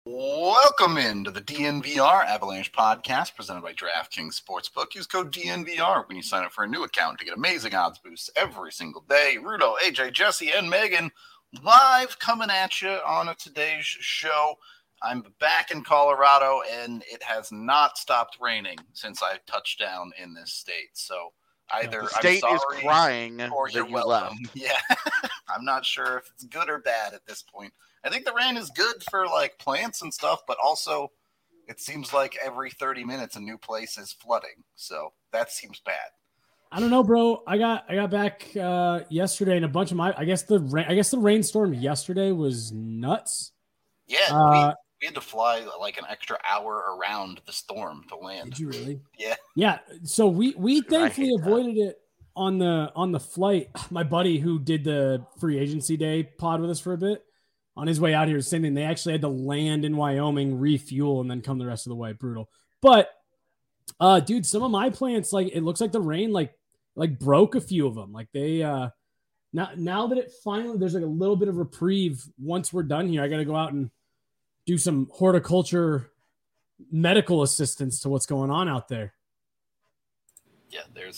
Welcome into the DNVR Avalanche podcast presented by DraftKings Sportsbook. Use code DNVR when you sign up for a new account to get amazing odds boosts every single day. Rudo, AJ, Jesse, and Megan live coming at you on today's show. I'm back in Colorado, and it has not stopped raining since I touched down in this state. So either the state I'm is sorry crying or that you're you welcome. left. Yeah, I'm not sure if it's good or bad at this point. I think the rain is good for like plants and stuff, but also it seems like every 30 minutes a new place is flooding. So that seems bad. I don't know, bro. I got back yesterday, and a bunch of I guess the rainstorm yesterday was nuts. Yeah, we had to fly like an extra hour around the storm to land. Did you really? Yeah. Yeah. So we thankfully avoided it on the flight. My buddy who did the free agency day pod with us for a bit, on his way out here, same thing. They actually had to land in Wyoming, refuel, and then come the rest of the way. Brutal. But, dude, some of my plants, like, it looks like the rain, like broke a few of them. Like they, now that it finally, there's like a little bit of reprieve. Once we're done here, I got to go out and do some horticulture medical assistance to what's going on out there. Yeah, there's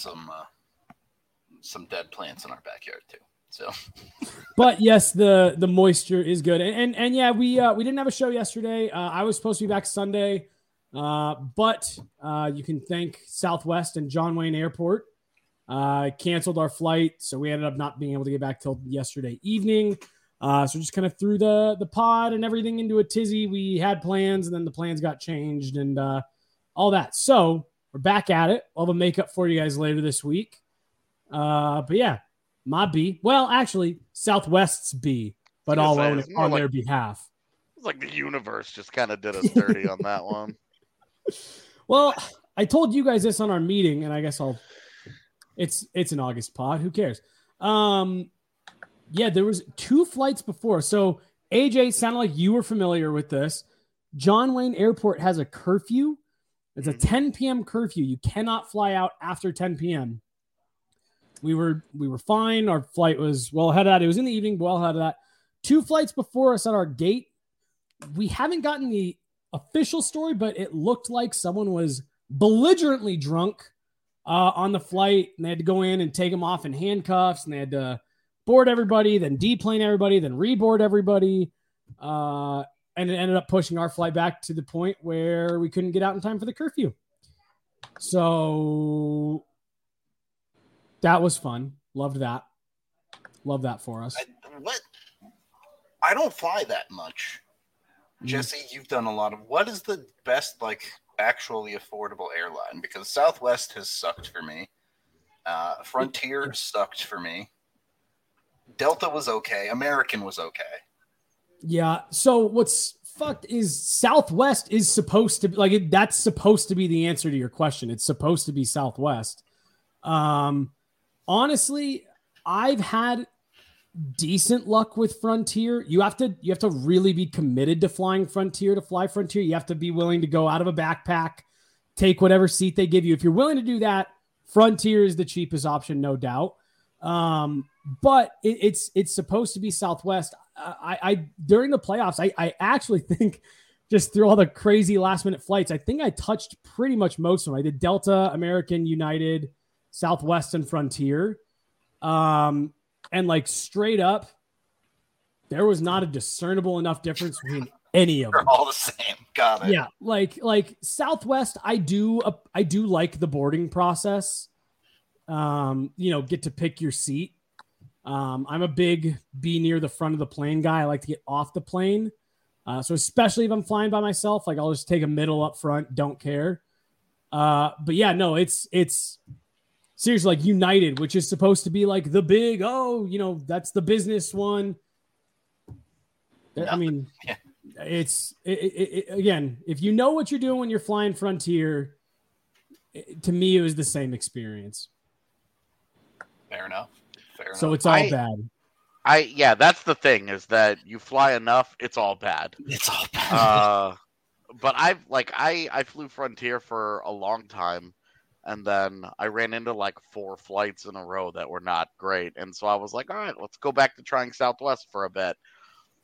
some dead plants in our backyard too. So, but yes, the moisture is good, and yeah, we didn't have a show yesterday. I was supposed to be back Sunday, but you can thank Southwest and John Wayne Airport canceled our flight, so we ended up not being able to get back till yesterday evening. So just kind of threw the pod and everything into a tizzy. We had plans, and then the plans got changed and all that. So we're back at it. I'll have a makeup for you guys later this week. But yeah. My B. Well, actually, Southwest's B, but I'll own it on their behalf. It's like the universe just kind of did us dirty on that one. Well, I told you guys this on our meeting, and I guess it's an August pod. Who cares? Yeah, there was 2 flights before. So, AJ, sounded like you were familiar with this. John Wayne Airport has a curfew. It's a 10 p.m. curfew. You cannot fly out after 10 p.m. We were fine. Our flight was well ahead of that. It was in the evening, well ahead of that. 2 flights before us at our gate. We haven't gotten the official story, but it looked like someone was belligerently drunk on the flight, and they had to go in and take them off in handcuffs, and they had to board everybody, then deplane everybody, then reboard everybody. And it ended up pushing our flight back to the point where we couldn't get out in time for the curfew. So that was fun. Loved that. Love that for us. I don't fly that much. Jesse, you've done a lot of. What is the best, like, actually affordable airline? Because Southwest has sucked for me. Frontier sucked for me. Delta was okay. American was okay. Yeah. So what's fucked is Southwest is supposed to be like that's supposed to be the answer to your question. It's supposed to be Southwest. Honestly, I've had decent luck with Frontier. You have to really be committed to flying Frontier to fly Frontier. You have to be willing to go out of a backpack, take whatever seat they give you. If you're willing to do that, Frontier is the cheapest option, no doubt. But it's supposed to be Southwest. I during the playoffs, I actually think just through all the crazy last minute flights, I think I touched pretty much most of them. I did Delta, American, United, Southwest, and Frontier. And like straight up, there was not a discernible enough difference between any of them. They're all the same. Got it. Yeah, like Southwest, I do like the boarding process. Get to pick your seat. I'm a big be near the front of the plane guy. I like to get off the plane. So especially if I'm flying by myself, like I'll just take a middle up front. Don't care. But yeah, no, it's seriously like United, which is supposed to be like the big, that's the business one. Yeah. I mean, it's again, if you know what you're doing when you're flying Frontier, to me, it was the same experience. Fair enough. So it's all bad. That's the thing is that you fly enough, it's all bad. It's all bad. But I flew Frontier for a long time, and then I ran into like 4 flights in a row that were not great, and so I was like, all right, let's go back to trying Southwest for a bit.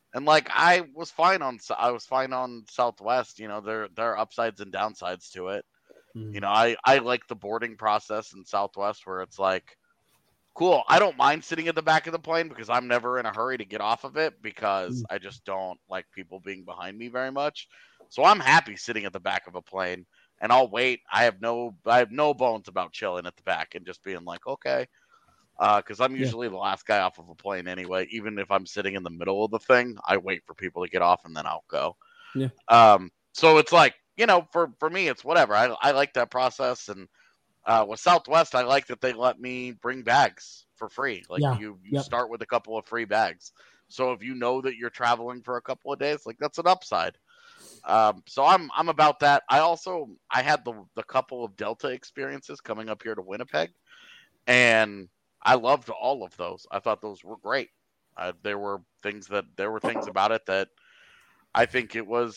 And like I was fine on Southwest. You know, there are upsides and downsides to it. Mhm. You know, I like the boarding process in Southwest where it's like, cool. I don't mind sitting at the back of the plane because I'm never in a hurry to get off of it because I just don't like people being behind me very much. So I'm happy sitting at the back of a plane and I'll wait. I have no bones about chilling at the back and just being like, okay. Because I'm usually the last guy off of a plane anyway. Even if I'm sitting in the middle of the thing, I wait for people to get off and then I'll go. Yeah. So it's like, you know, for me, it's whatever. I like that process. And with Southwest, I like that they let me bring bags for free. Like you start with a couple of free bags. So if you know that you're traveling for a couple of days, like that's an upside. So I'm about that. I had the couple of Delta experiences coming up here to Winnipeg, and I loved all of those. I thought those were great. There were things about it that I think it was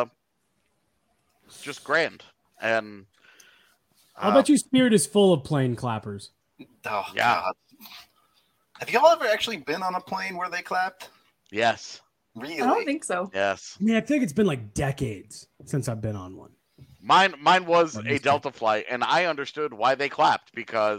just grand. And I'll bet you Spirit is full of plane clappers. Oh, yeah. God. Have y'all ever actually been on a plane where they clapped? Yes. Really? I don't think so. Yes. I mean, I feel like it's been like decades since I've been on one. Mine was a Delta flight, and I understood why they clapped because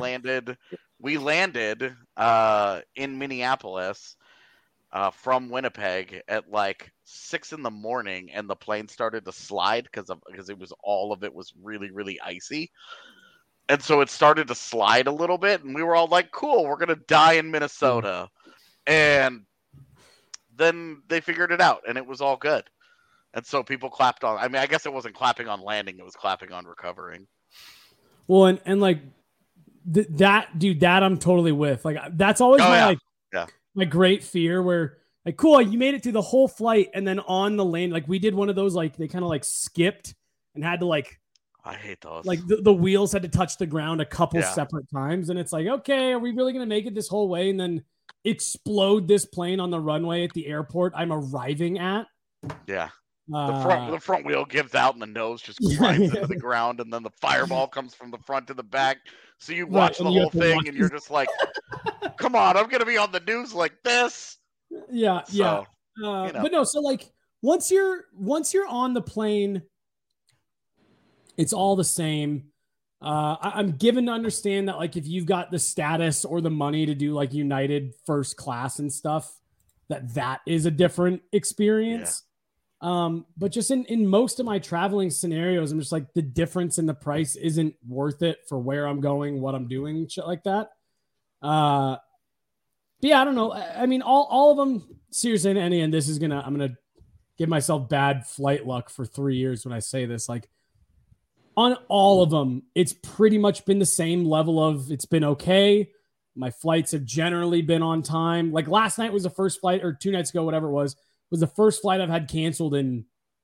we landed in Minneapolis from Winnipeg at like 6 a.m, and the plane started to slide because all of it was really, really icy. And so it started to slide a little bit, and we were all like, cool, we're going to die in Minnesota. And then they figured it out, and it was all good. And so people clapped on. I mean, I guess it wasn't clapping on landing; it was clapping on recovering. Well, and like that I'm totally with. Like that's always my great fear. Where like, cool, you made it through the whole flight, and then on the land, like we did one of those, like they kind of like skipped and had to like. I hate those. Like the wheels had to touch the ground a couple separate times, and it's like, okay, are we really gonna make it this whole way and then explode this plane on the runway at the airport I'm arriving at? Yeah. The front wheel gives out and the nose just grinds into the ground, and then the fireball comes from the front to the back. So you watch the whole thing and you're just like, come on, I'm going to be on the news like this. Yeah. So, yeah. You know. But no, so like once you're on the plane, it's all the same. I'm given to understand that like if you've got the status or the money to do like United first class and stuff, that is a different experience. Yeah. But just in most of my traveling scenarios, I'm just like the difference in the price isn't worth it for where I'm going, what I'm doing, shit like that. But yeah, I don't know. I mean, all of them, seriously, and I'm gonna give myself bad flight luck for 3 years when I say this. Like on all of them, it's pretty much been the same level of it's been okay. My flights have generally been on time. Like last night was the first flight, or 2 nights ago, whatever it was the first flight I've had canceled in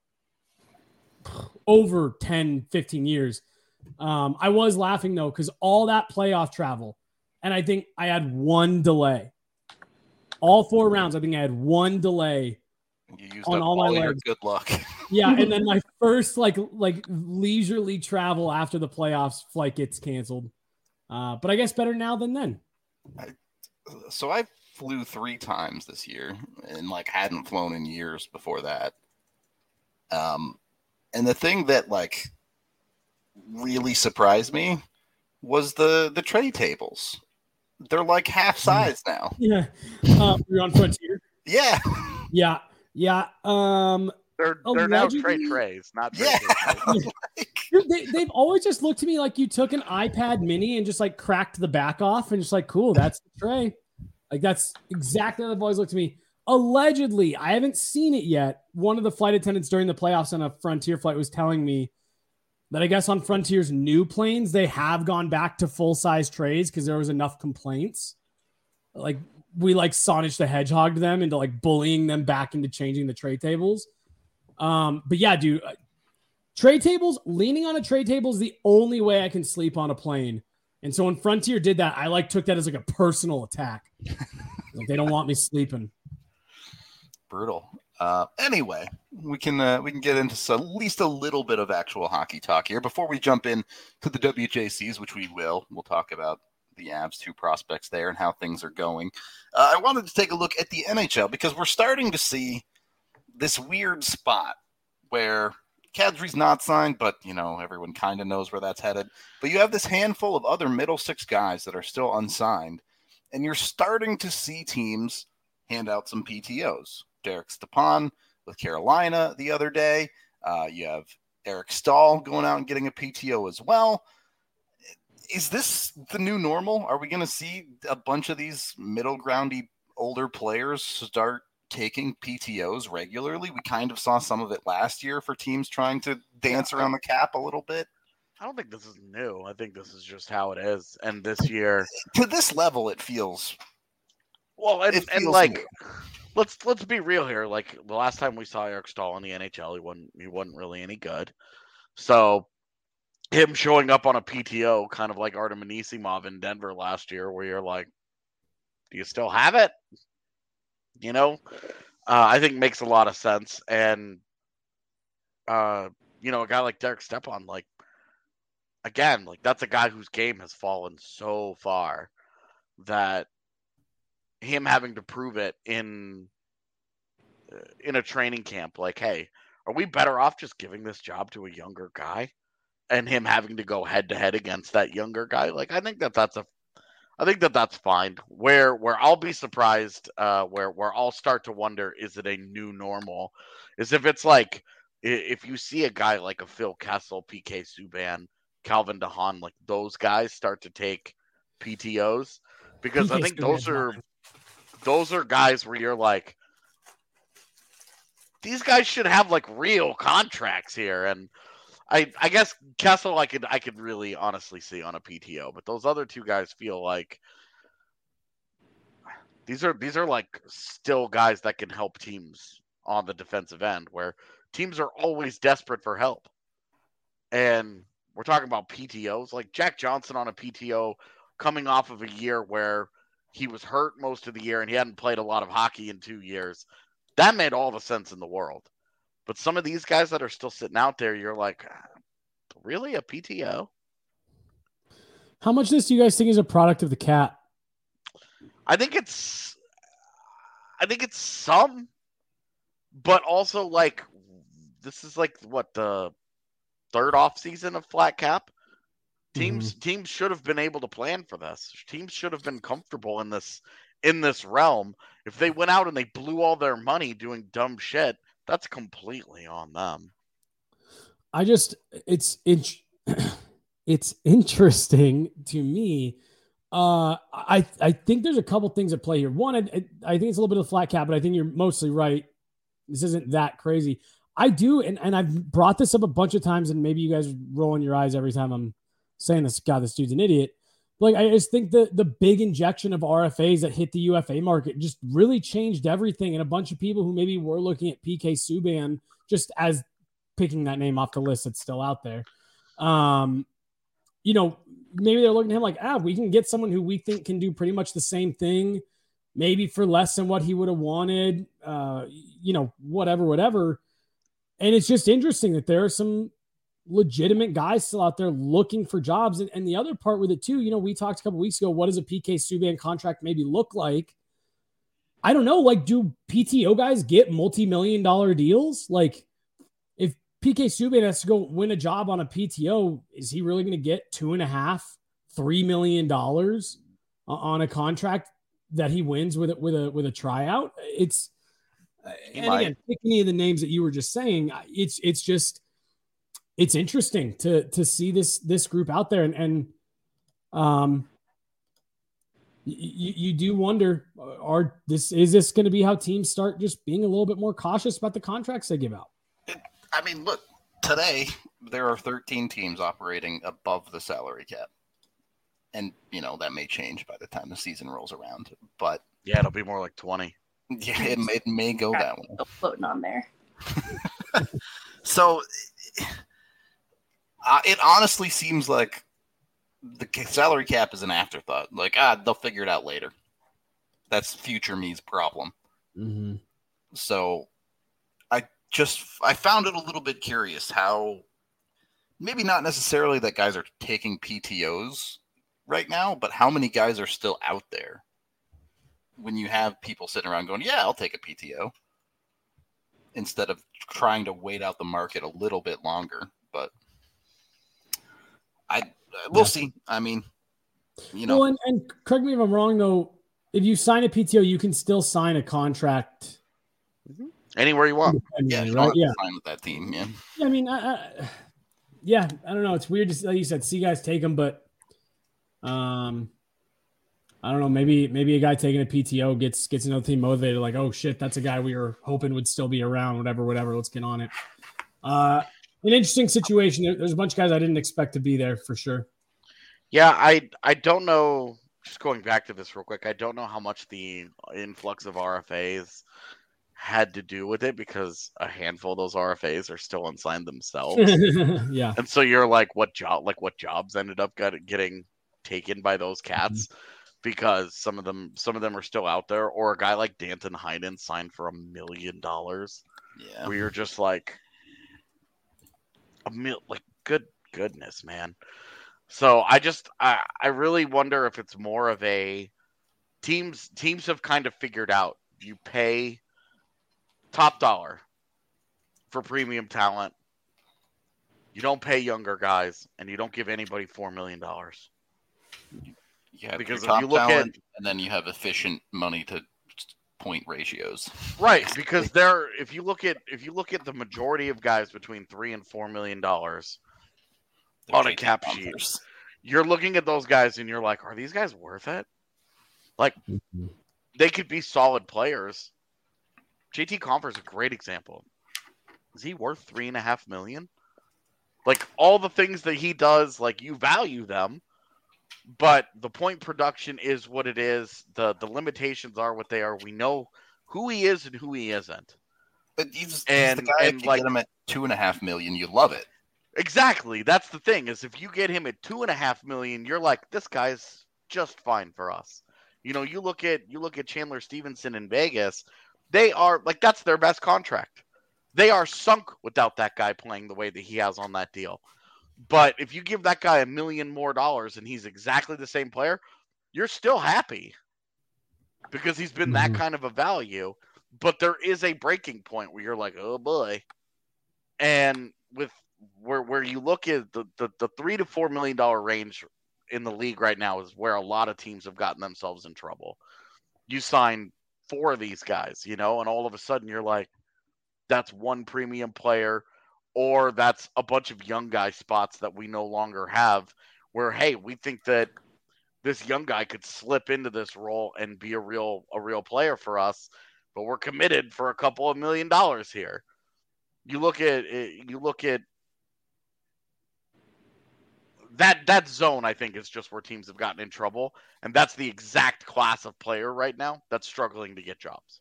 over 10, 15 years. I was laughing though, because all that playoff travel, and I think I had one delay. All 4 rounds, I think I had one delay. You used on all my legs. Good luck. Yeah, and then my first like leisurely travel after the playoffs flight gets canceled. But I guess better now than then. So I flew 3 times this year and like hadn't flown in years before that. And the thing that like really surprised me was the tray tables. They're like half size now. Yeah. You're on Frontier? Yeah. Yeah. Yeah. They're now trays, not tray tables. They've always just looked to me like you took an iPad mini and just like cracked the back off and just like, cool, that's the tray. Like that's exactly how they've always looked to me. Allegedly, I haven't seen it yet. One of the flight attendants during the playoffs on a Frontier flight was telling me that I guess on Frontier's new planes, they have gone back to full-size trays because there was enough complaints. Like we like Sonic the Hedgehog them into like bullying them back into changing the tray tables. But yeah, dude, tray tables, leaning on a tray table is the only way I can sleep on a plane. And so when Frontier did that, I like took that as like a personal attack. Like they don't want me sleeping. Brutal. Anyway, we can get into at least a little bit of actual hockey talk here before we jump in to the WJCs, which we'll talk about the Avs, 2 prospects there, and how things are going. I wanted to take a look at the NHL because we're starting to see this weird spot where Kadri's not signed, but, everyone kind of knows where that's headed. But you have this handful of other middle six guys that are still unsigned, and you're starting to see teams hand out some PTOs. Derek Stepan with Carolina the other day. You have Eric Stahl going out and getting a PTO as well. Is this the new normal? Are we going to see a bunch of these middle groundy older players start taking PTOs regularly? We kind of saw some of it last year for teams trying to dance around the cap a little bit. I don't think this is new. I think this is just how it is. And this year, to this level, it feels well. And like, let's be real here. Like the last time we saw Eric Stahl in the NHL, he wasn't really any good. So him showing up on a PTO, kind of like Artem Anisimov in Denver last year, where you're like, do you still have it? I think makes a lot of sense. And, a guy like Derek Stepan, like, again, like that's a guy whose game has fallen so far that him having to prove it in a training camp, like, hey, are we better off just giving this job to a younger guy and him having to go head to head against that younger guy? Like, I think that's fine. Where I'll be surprised, where I'll start to wonder, is it a new normal? Is if it's like, if you see a guy like a Phil Kessel, PK Subban, Calvin DeHaan, like those guys start to take PTOs, because I think those are guys where you're like, these guys should have like real contracts here. And I guess Kessel I could really honestly see on a PTO, but those other 2 guys feel like these are like still guys that can help teams on the defensive end, where teams are always desperate for help. And we're talking about PTOs, like Jack Johnson on a PTO coming off of a year where he was hurt most of the year and he hadn't played a lot of hockey in 2 years. That made all the sense in the world. But some of these guys that are still sitting out there, you're like, really, a PTO? How much of this do you guys think is a product of the cap? I think it's some, but also like this is like what, the 3rd off season of flat cap. Teams should have been able to plan for this. Teams should have been comfortable in this realm. If they went out and they blew all their money doing dumb shit, that's completely on them. It's interesting to me. I think there's a couple things at play here. One, I think it's a little bit of a flat cap, but I think you're mostly right. This isn't that crazy. I do, and I've brought this up a bunch of times, and maybe you guys are rolling your eyes every time I'm saying this. God, this dude's an idiot. Like, I just think the big injection of RFAs that hit the UFA market just really changed everything. And a bunch of people who maybe were looking at PK Subban just as picking that name off the list that's still out there. Maybe they're looking at him like, we can get someone who we think can do pretty much the same thing, maybe for less than what he would have wanted, whatever. And it's just interesting that there are some legitimate guys still out there looking for jobs. And the other part with it too, we talked a couple weeks ago, what does a PK Subban contract maybe look like? I don't know. Like, do PTO guys get multi-million-dollar deals? Like, if PK Subban has to go win a job on a PTO, is he really going to get $2.5-3 million on a contract that he wins with a tryout? Again, pick any of the names that you were just saying. It's interesting to see this group out there, and you do wonder, is this going to be how teams start just being a little bit more cautious about the contracts they give out? I mean, look, today there are 13 teams operating above the salary cap, and that may change by the time the season rolls around. But yeah, it'll be more like 20. Yeah, it may go that way. Floating on there. So it honestly seems like the salary cap is an afterthought. Like, they'll figure it out later. That's future me's problem. Mm-hmm. So I found it a little bit curious how maybe not necessarily that guys are taking PTOs right now, but how many guys are still out there when you have people sitting around going, yeah, I'll take a PTO, instead of trying to wait out the market a little bit longer. But we'll see. I mean, Well, and correct me if I'm wrong, though. If you sign a PTO, you can still sign a contract anywhere you want. Yeah, you right? don't have to sign with that team. Yeah. I mean, I don't know. It's weird to, like you said, see guys take them, but I don't know. Maybe a guy taking a PTO gets another team motivated. Like, oh shit, that's a guy we were hoping would still be around. Whatever. Let's get on it. An interesting situation. There's a bunch of guys I didn't expect to be there for sure. Yeah, I don't know. Just going back to this real quick, I don't know how much the influx of RFAs had to do with it, because a handful of those RFAs are still unsigned themselves. Yeah. And so you're like, what jobs ended up getting taken by those cats? Because some of them are still out there, or a guy like Danton Heinen signed for $1 million. Yeah. Where you're just like, goodness, man. So I really wonder if it's more of a teams have kind of figured out, you pay top dollar for premium talent. You don't pay younger guys, and you don't give anybody $4 million. Yeah, because if you look talent, and then you have efficient money to point ratios. Right, because if you look at the majority of guys between $3 and $4 million on a cap sheet, you're looking at those guys and you're like, are these guys worth it? Like, they could be solid players. JT Compher's a great example. Is he worth $3.5 million? Like, all the things that he does, like, you value them, but the point production is what it is. The limitations are what they are. We know who he is and who he isn't. But he's the guy, if you get him at $2.5 million, you love it. Exactly. That's the thing, is if you get him at $2.5 million, you're like, this guy's just fine for us. You look at Chandler Stevenson in Vegas. They are like, that's their best contract. They are sunk without that guy playing the way that he has on that deal. But if you give that guy $1 million more and he's exactly the same player, you're still happy, because he's been that kind of a value. But there is a breaking point where you're like, oh boy. And with where you look at the $3 to $4 million range in the league right now is where a lot of teams have gotten themselves in trouble. You sign 4 of these guys, and all of a sudden you're like, that's one premium player, or that's a bunch of young guy spots that we no longer have, where, hey, we think that this young guy could slip into this role and be a real player for us, but we're committed for a couple of $1 million here. You look at that zone, I think, is just where teams have gotten in trouble, and that's the exact class of player right now that's struggling to get jobs.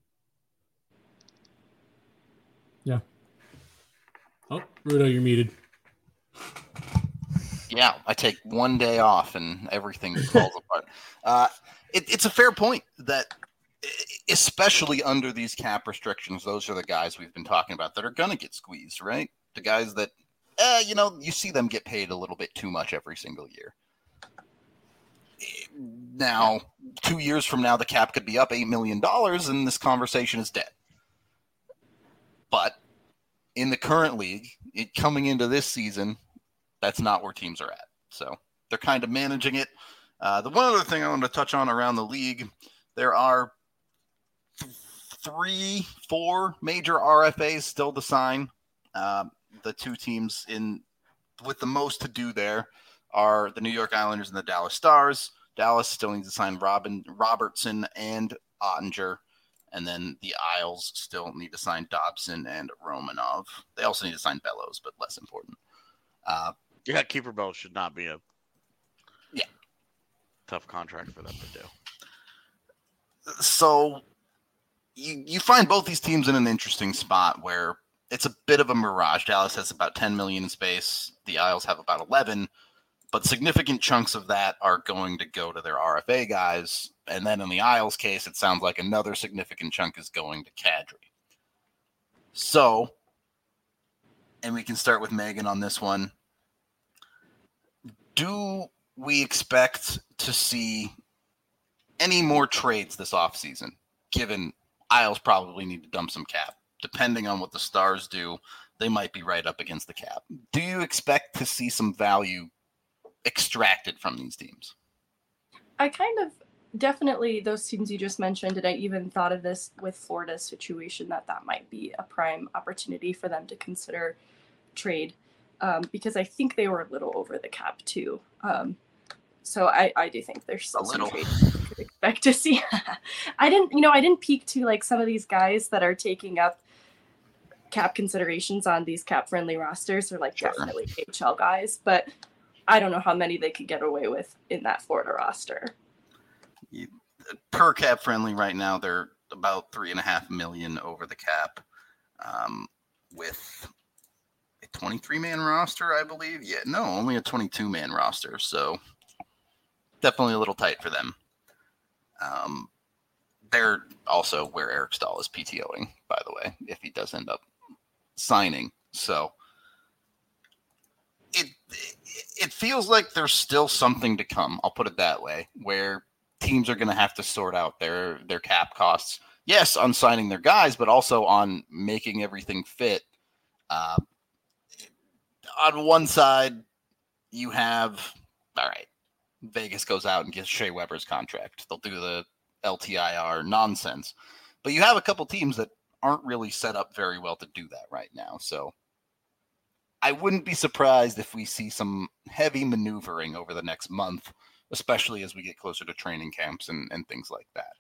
Yeah. Oh, Rudo, you're muted. Yeah, I take one day off and everything falls apart. It's a fair point that, especially under these cap restrictions, those are the guys we've been talking about that are going to get squeezed, right? The guys that, you see them get paid a little bit too much every single year. Now, 2 years from now, the cap could be up $8 million and this conversation is dead. But in the current league, coming into this season, that's not where teams are at. So they're kind of managing it. The one other thing I want to touch on around the league, there are 3-4 major RFAs still to sign. The 2 teams with the most to do there are the New York Islanders and the Dallas Stars. Dallas still needs to sign Robertson and Ottinger. And then the Isles still need to sign Dobson and Romanov. They also need to sign Bellows, but less important. Keeper Bellows should not be a tough contract for them to do. So you find both these teams in an interesting spot where it's a bit of a mirage. Dallas has about $10 million in space. The Isles have about 11, but significant chunks of that are going to go to their RFA guys. And then in the Isles case, it sounds like another significant chunk is going to Kadri. So, and we can start with Megan on this one. Do we expect to see any more trades this offseason, given Isles probably need to dump some cap. Depending on what the Stars do, they might be right up against the cap. Do you expect to see some value extracted from these teams? I kind of definitely those teams you just mentioned, and I even thought of this with Florida's situation that might be a prime opportunity for them to consider trade, because I think they were a little over the cap too. So I do think there's still some trade we could expect to see. I didn't peek to like some of these guys that are taking up cap considerations on these cap friendly rosters, or like definitely HL guys, but I don't know how many they could get away with in that Florida roster. Per cap friendly right now, they're about $3.5 million over the cap, with a 23-man roster, I believe. Yeah, no, only a 22-man roster. So definitely a little tight for them. They're also where Eric Stahl is PTOing, by the way, if he does end up signing. So it feels like there's still something to come. I'll put it that way, where teams are going to have to sort out their cap costs. Yes, on signing their guys, but also on making everything fit. On one side, you have, all right, Vegas goes out and gets Shea Weber's contract. They'll do the LTIR nonsense. But you have a couple teams that aren't really set up very well to do that right now. So I wouldn't be surprised if we see some heavy maneuvering over the next month, especially as we get closer to training camps and things like that.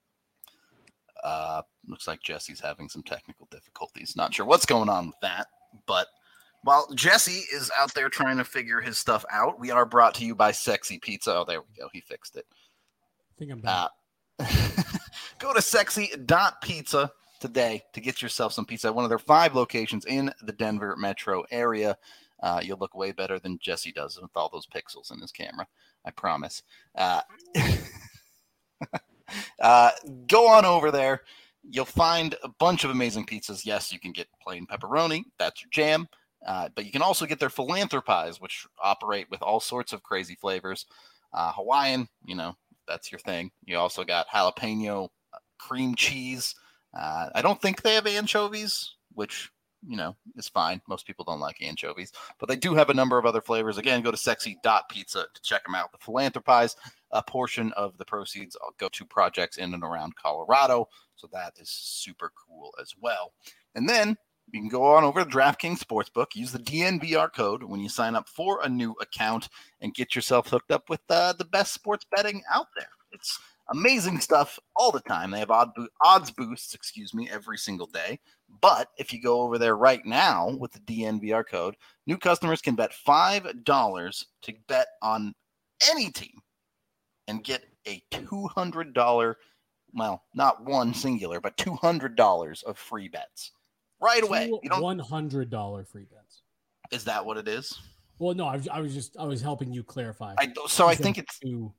Looks like Jesse's having some technical difficulties. Not sure what's going on with that, but while Jesse is out there trying to figure his stuff out, we are brought to you by Sexy Pizza. Oh, there we go. He fixed it. I think I'm back. Go to sexy.pizza today to get yourself some pizza at one of their 5 locations in the Denver metro area. You'll look way better than Jesse does with all those pixels in his camera. I promise. Go on over there. You'll find a bunch of amazing pizzas. Yes, you can get plain pepperoni. That's your jam. But you can also get their philanthropies, which operate with all sorts of crazy flavors. Hawaiian, that's your thing. You also got jalapeno, cream cheese. I don't think they have anchovies, which, is fine. Most people don't like anchovies. But they do have a number of other flavors. Again, go to sexy.pizza to check them out. The philanthropies, a portion of the proceeds go to projects in and around Colorado. So that is super cool as well. And then you can go on over to DraftKings Sportsbook, use the DNVR code when you sign up for a new account, and get yourself hooked up with the best sports betting out there. It's amazing stuff all the time. They have odds boosts, every single day. But if you go over there right now with the DNVR code, new customers can bet $5 to bet on any team and get a $200, well, not one singular, but $200 of free bets. Right away. $100 free bets. Is that what it is? Well, no, I was helping you clarify. I think it's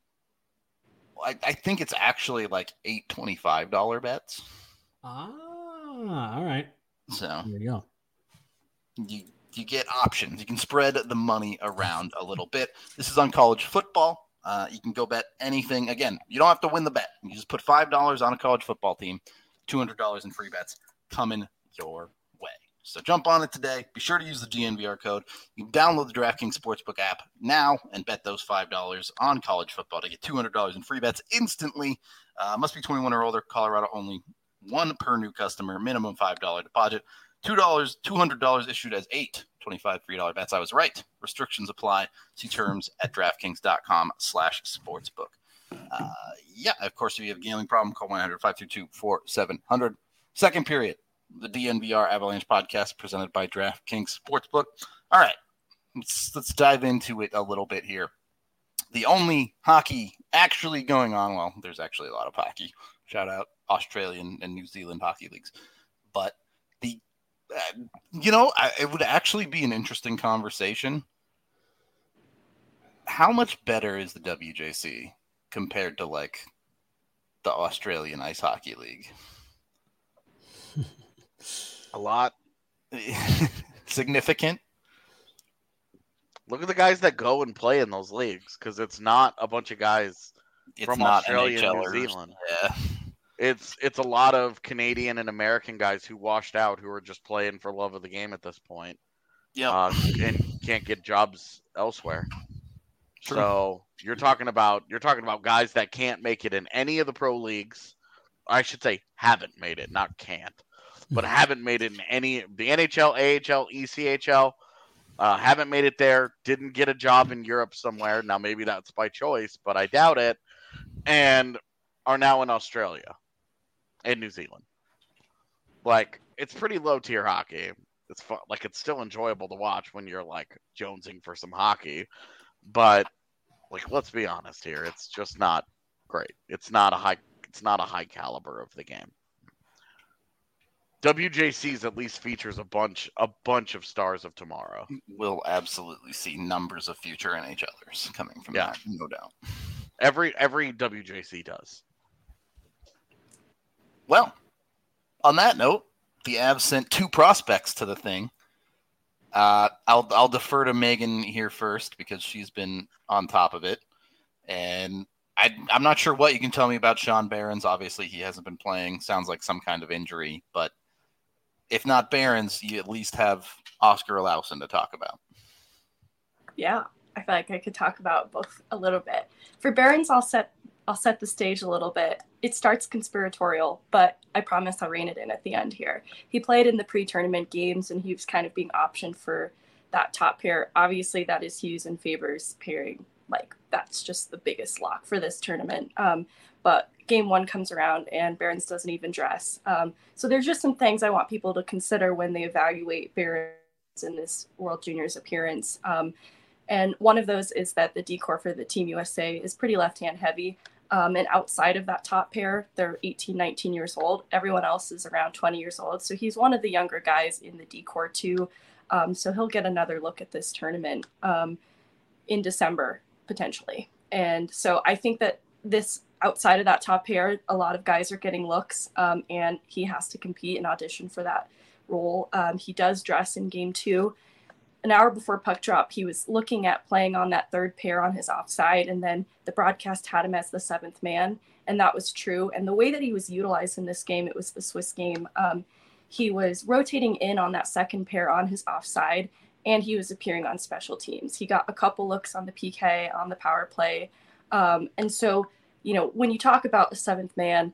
I think it's actually like $825 bets. All right. So there you go. You get options. You can spread the money around a little bit. This is on college football. You can go bet anything. Again, you don't have to win the bet. You just put $5 on a college football team, $200 in free bets coming your way. So jump on it today. Be sure to use the DNVR code. You can download the DraftKings Sportsbook app now and bet those $5 on college football to get $200 in free bets instantly. Must be 21 or older. Colorado only. 1 per new customer. Minimum $5 deposit. $200 issued as 8 $25 free bets. I was right. Restrictions apply. See terms at DraftKings.com/sportsbook. Of course, if you have a gambling problem, call 1-800-522-4700. Second period. The DNVR Avalanche podcast presented by DraftKings Sportsbook. All right, let's dive into it a little bit here. The only hockey actually going on, well, there's actually a lot of hockey. Shout out Australian and New Zealand hockey leagues. But it would actually be an interesting conversation. How much better is the WJC compared to like the Australian Ice Hockey League? A lot. Significant? Look at the guys that go and play in those leagues, because it's not a bunch of guys from Australia and New Zealand. Yeah. It's a lot of Canadian and American guys who washed out, who are just playing for love of the game at this point. Yeah. And can't get jobs elsewhere. True. So you're talking about guys that can't make it in any of the pro leagues. I should say haven't made it, not can't, but haven't made it in any the NHL, AHL, ECHL. Haven't made it there. Didn't get a job in Europe somewhere. Now maybe that's by choice, but I doubt it. And are now in Australia and New Zealand. Like, it's pretty low tier hockey. It's fun. Like, it's still enjoyable to watch when you're like jonesing for some hockey, but like, let's be honest here. It's just not great. It's not a high caliber of the game. WJCs at least features a bunch of stars of tomorrow. We'll absolutely see numbers of future NHLers coming from that, no doubt. Every WJC does. Well, on that note, the Avs sent 2 prospects to the thing. I'll defer to Megan here first because she's been on top of it, and I'm not sure what you can tell me about Sean Behrens. Obviously, he hasn't been playing. Sounds like some kind of injury, but if not Behrens, you at least have Oscar Olausson to talk about. Yeah, I feel like I could talk about both a little bit. For Behrens, I'll set the stage a little bit. It starts conspiratorial, but I promise I'll rein it in at the end here. He played in the pre-tournament games, and he was kind of being optioned for that top pair. Obviously, that is Hughes and Favors pairing. Like, that's just the biggest lock for this tournament. But game 1 comes around, and Behrens doesn't even dress. So there's just some things I want people to consider when they evaluate Behrens in this World Juniors appearance. And one of those is that the decor for the Team USA is pretty left-hand heavy. And outside of that top pair, they're 18, 19 years old. Everyone else is around 20 years old. So he's one of the younger guys in the decor too. So he'll get another look at this tournament in December, potentially. And so I think that this outside of that top pair, a lot of guys are getting looks, and he has to compete and audition for that role. He does dress in game 2. An hour before puck drop, he was looking at playing on that third pair on his offside, and then the broadcast had him as the 7th man, and that was true. And the way that he was utilized in this game, it was the Swiss game, he was rotating in on that second pair on his offside, and he was appearing on special teams. He got a couple looks on the PK, on the power play. And so, when you talk about the 7th man,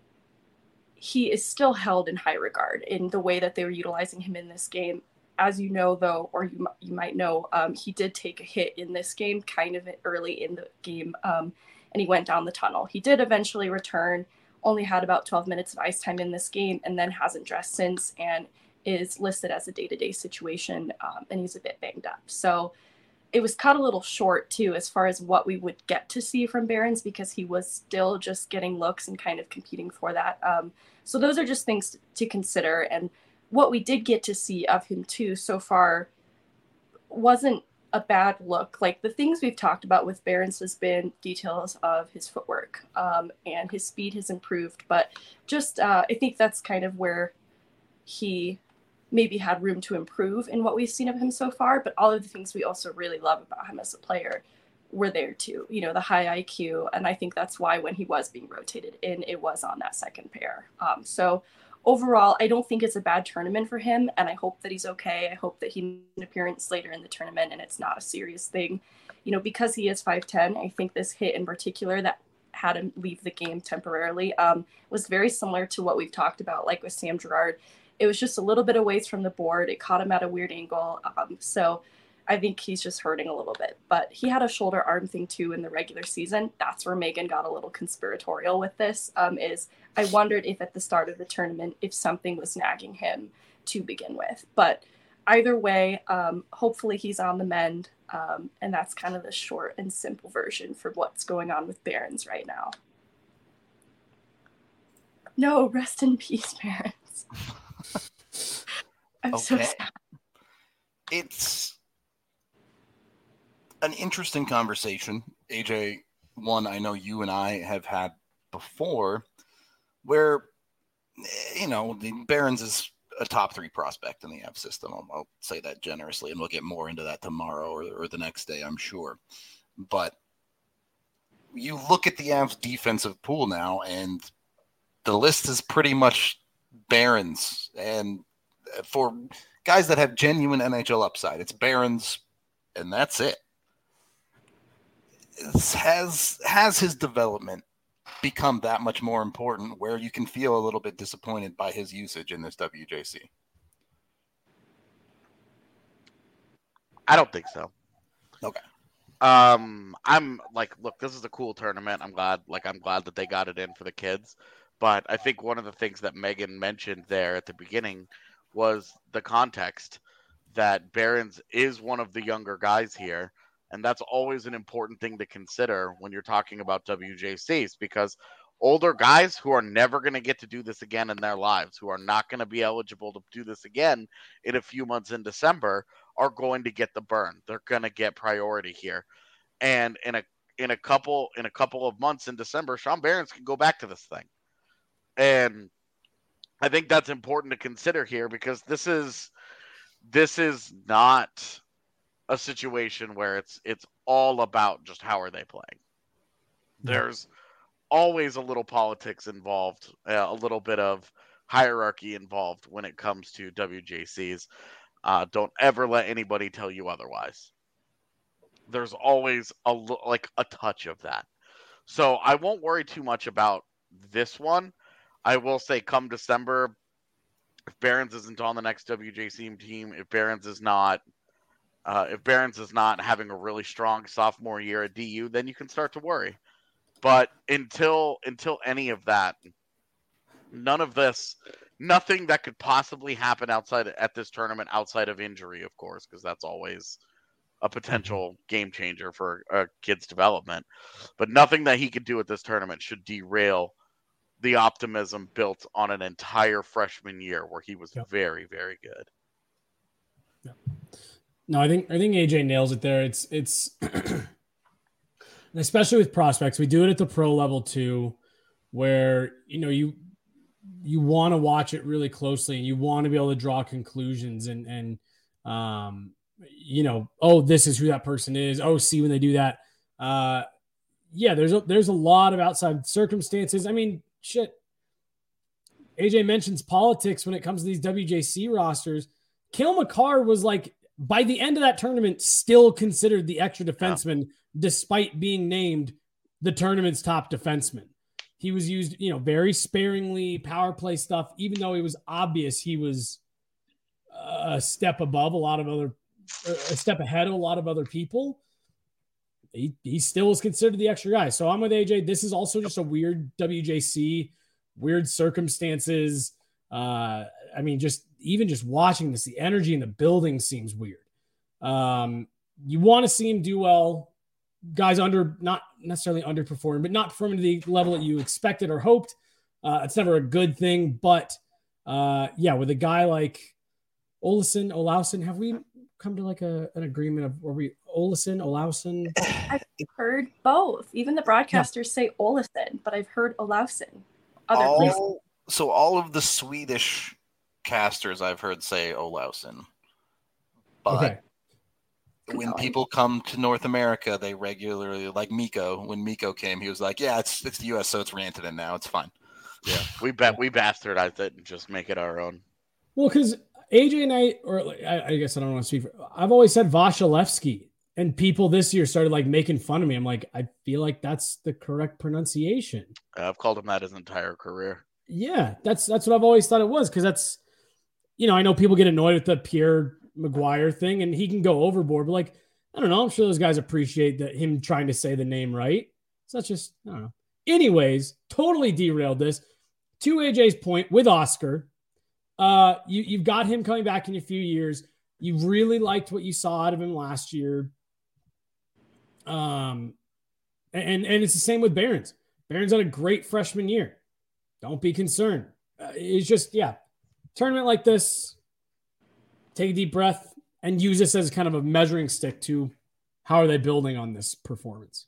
he is still held in high regard in the way that they were utilizing him in this game. As you know, though, or you might know, he did take a hit in this game kind of early in the game, and he went down the tunnel. He did eventually return, only had about 12 minutes of ice time in this game, and then hasn't dressed since and is listed as a day-to-day situation, and he's a bit banged up. So it was cut a little short, too, as far as what we would get to see from Behrens, because he was still just getting looks and kind of competing for that. So those are just things to consider. And what we did get to see of him, too, so far wasn't a bad look. Like, the things we've talked about with Behrens has been details of his footwork, and his speed has improved. But just I think that's kind of where he maybe had room to improve in what we've seen of him so far, but all of the things we also really love about him as a player were there too. The high IQ, and I think that's why when he was being rotated in, it was on that second pair. So overall, I don't think it's a bad tournament for him, and I hope that he's okay. I hope that he makes an appearance later in the tournament and it's not a serious thing. Because he is 5'10", I think this hit in particular that had him leave the game temporarily was very similar to what we've talked about, like with Sam Girard. It was just a little bit away from the board. It caught him at a weird angle. So I think he's just hurting a little bit. But he had a shoulder arm thing too in the regular season. That's where Megan got a little conspiratorial with this, is I wondered if at the start of the tournament, if something was nagging him to begin with. But either way, hopefully he's on the mend. And that's kind of the short and simple version for what's going on with Behrens right now. No, rest in peace, Behrens. I'm so sad. It's an interesting conversation, AJ, one I know you and I have had before, where, Behrens is a top 3 prospect in the Avs system. I'll say that generously, and we'll get more into that tomorrow or the next day, I'm sure. But you look at the Avs defensive pool now, and the list is pretty much Barons. And for guys that have genuine NHL upside, it's Barons, and that's it. Has his development become that much more important where you can feel a little bit disappointed by his usage in this WJC? I don't think so. Okay. I'm like, look, this is a cool tournament. I'm glad that they got it in for the kids. But I think one of the things that Megan mentioned there at the beginning was the context that Barons is one of the younger guys here. And that's always an important thing to consider when you're talking about WJCs, because older guys who are never going to get to do this again in their lives, who are not going to be eligible to do this again in a few months in December, are going to get the burn. They're going to get priority here. And in a couple of months in December, Sean Barons can go back to this thing. And I think that's important to consider here, because this is not a situation where it's all about just how are they playing. There's always a little politics involved, a little bit of hierarchy involved when it comes to WJCs. Don't ever let anybody tell you otherwise. There's always a touch of that. So I won't worry too much about this one. I will say come December, if Barons isn't on the next WJC team, if Barons is not having a really strong sophomore year at DU, then you can start to worry. But until any of that, nothing that could possibly happen at this tournament outside of injury, of course, because that's always a potential game changer for a kid's development. But nothing that he could do at this tournament should derail the optimism built on an entire freshman year where he was very, very good. Yeah. No, I think AJ nails it there. It's especially with prospects, we do it at the pro level too, where you want to watch it really closely and you want to be able to draw conclusions and this is who that person is. Oh, see when they do that. There's a lot of outside circumstances. I mean, shit. AJ mentions politics when it comes to these WJC rosters. Cale Makar was by the end of that tournament, still considered the extra defenseman, despite being named the tournament's top defenseman. He was used, very sparingly, power play stuff, even though it was obvious he was a step above a step ahead of a lot of other people. He still was considered the extra guy. So I'm with AJ. This is also just a weird WJC, weird circumstances. Just watching this, the energy in the building seems weird. You want to see him do well. Guys not necessarily underperforming, but not performing to the level that you expected or hoped. It's never a good thing. But with a guy like Olausson, have we come to an agreement of were we Olausson? I've heard both. Even the broadcasters say Olausson, but I've heard Olausson. So all of the Swedish casters I've heard say Olausson. But when people come to North America, they regularly, like Mikko, when Mikko came, he was like, yeah, it's the US, so it's Rantanen now. It's fine. Yeah, we bastardized it and just make it our own. Well, because AJ and I guess I don't want to speak for, I've always said Vasilevsky, and people this year started making fun of me. I'm like, I feel like that's the correct pronunciation. I've called him that his entire career. Yeah, that's what I've always thought it was, because that's, I know people get annoyed with the Pierre Maguire thing, and he can go overboard, but I don't know. I'm sure those guys appreciate him trying to say the name right. So that's just, I don't know. Anyways, totally derailed this. To AJ's point with Oscar, you've got him coming back in a few years. You really liked what you saw out of him last year. And it's the same with Barons. Barons had a great freshman year. Don't be concerned. It's just, tournament like this, take a deep breath and use this as kind of a measuring stick to how are they building on this performance.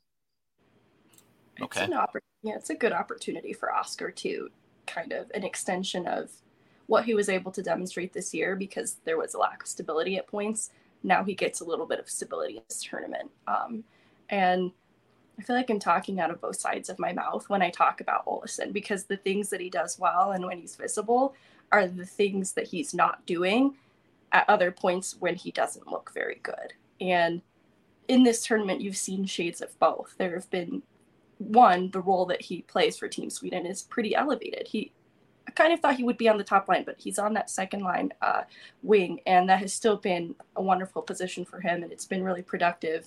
Okay. It's a good opportunity for Oscar to kind of an extension of what he was able to demonstrate this year, because there was a lack of stability at points. Now he gets a little bit of stability in this tournament. And I feel like I'm talking out of both sides of my mouth when I talk about Olausson, because the things that he does well and when he's visible are the things that he's not doing at other points when he doesn't look very good. And in this tournament, you've seen shades of both. There have been, one, the role that he plays for Team Sweden is pretty elevated. I kind of thought he would be on the top line, but he's on that second line wing, and that has still been a wonderful position for him, and it's been really productive.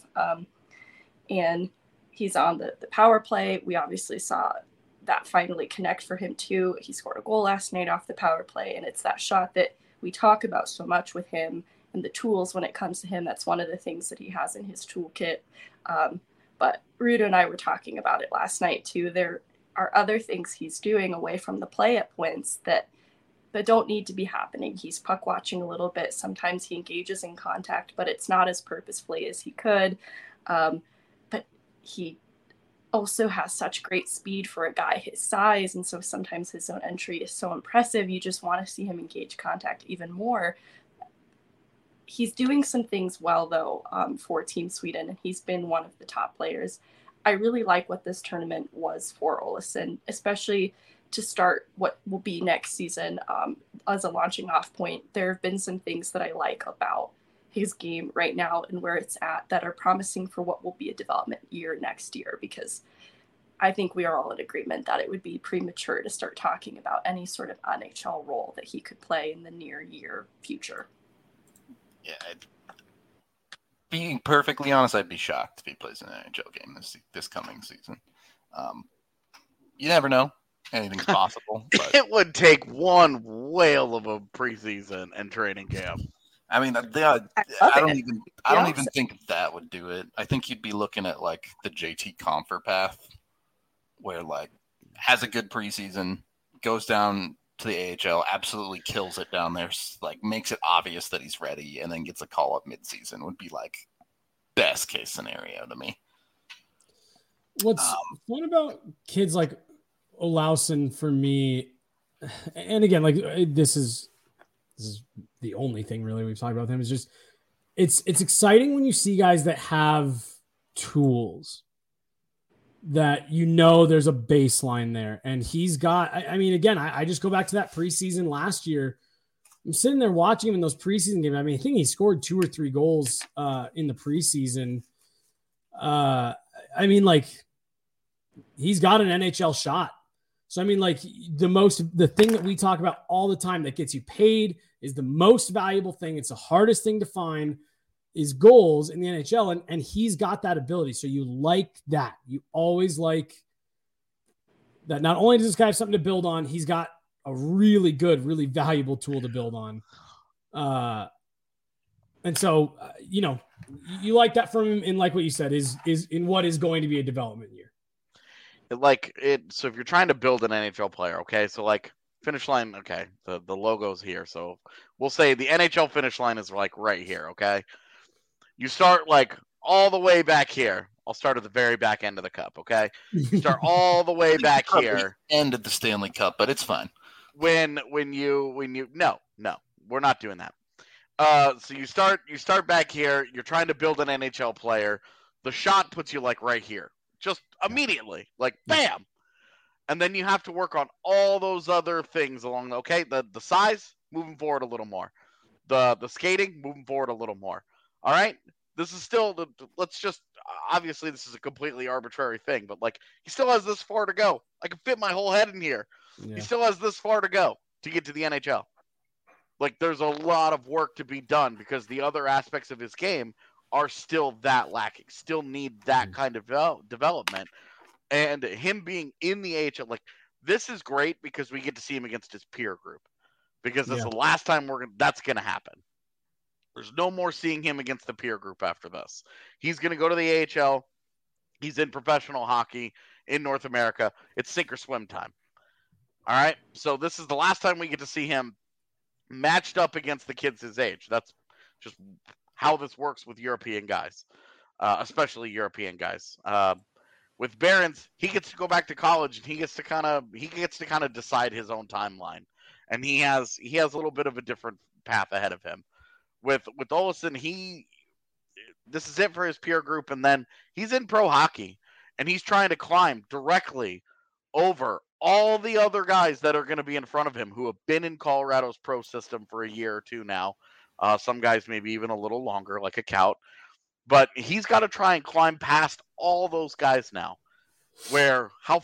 And he's on the power play. We obviously saw that finally connect for him too. He scored a goal last night off the power play, and it's that shot that we talk about so much with him and the tools when it comes to him. That's one of the things that he has in his toolkit. But Rudo and I were talking about it last night too. There are other things he's doing away from the play at points that don't need to be happening. He's puck watching a little bit. Sometimes he engages in contact, but it's not as purposefully as he could. But he also has such great speed for a guy his size, and so sometimes his zone entry is so impressive. You just want to see him engage contact even more. He's doing some things well, though, for Team Sweden, and he's been one of the top players. I really like what this tournament was for Olausson, especially to start what will be next season as a launching off point. There have been some things that I like about his game right now and where it's at that are promising for what will be a development year next year, because I think we are all in agreement that it would be premature to start talking about any sort of NHL role that he could play in the near year future. Yeah, being perfectly honest, I'd be shocked if he plays an NHL game this coming season. You never know. Anything's possible. But it would take one whale of a preseason and training camp. I mean, I don't even think that would do it. I think you'd be looking at like the JT Compher path, where like has a good preseason, goes down to the AHL, absolutely kills it down there, like makes it obvious that he's ready, and then gets a call up midseason. Would be like best case scenario to me. What's fun about kids like Olausson for me, and again, like this is the only thing really we've talked about with him, is just it's exciting when you see guys that have tools that there's a baseline there, and he's got. I mean, again, I just go back to that preseason last year. I'm sitting there watching him in those preseason games. I mean, I think he scored 2 or 3 goals in the preseason. I mean, like he's got an NHL shot. So, I mean, like the thing that we talk about all the time that gets you paid is the most valuable thing. It's the hardest thing to find is goals in the NHL. And he's got that ability. So you like that. You always like that. Not only does this guy have something to build on, he's got a really good, really valuable tool to build on. And so, you like that from him, and like what you said is in what is going to be a development year. So if you're trying to build an NHL player, okay, so like finish line, okay, the logo's here. So we'll say the NHL finish line is like right here, okay? You start like all the way back here. I'll start at the very back end of the cup, okay? You start all the way back here. End of the Stanley Cup, but it's fine. No, we're not doing that. So you start back here. You're trying to build an NHL player. The shot puts you like right here. Just immediately, like bam. And then you have to work on all those other things along the size, moving forward a little more. The skating, moving forward a little more. All right? This is still obviously this is a completely arbitrary thing, but like he still has this far to go. I can fit my whole head in here. Yeah. He still has this far to go to get to the NHL. Like there's a lot of work to be done because the other aspects of his game are still that lacking, still need that kind of development. And him being in the AHL, like this is great because we get to see him against his peer group, because that's the last time that's going to happen. There's no more seeing him against the peer group after this. He's going to go to the AHL. He's in professional hockey in North America. It's sink or swim time. All right. So this is the last time we get to see him matched up against the kids his age. That's just how this works with European guys, especially European guys. With Barons, he gets to go back to college and he gets to kind of decide his own timeline and he has a little bit of a different path ahead of him. With Olsen, this is it for his peer group, and then he's in pro hockey, and he's trying to climb directly over all the other guys that are going to be in front of him who have been in Colorado's pro system for a year or two now. Some guys maybe even a little longer, like a Kaut. But he's got to try and climb past all those guys now. Where how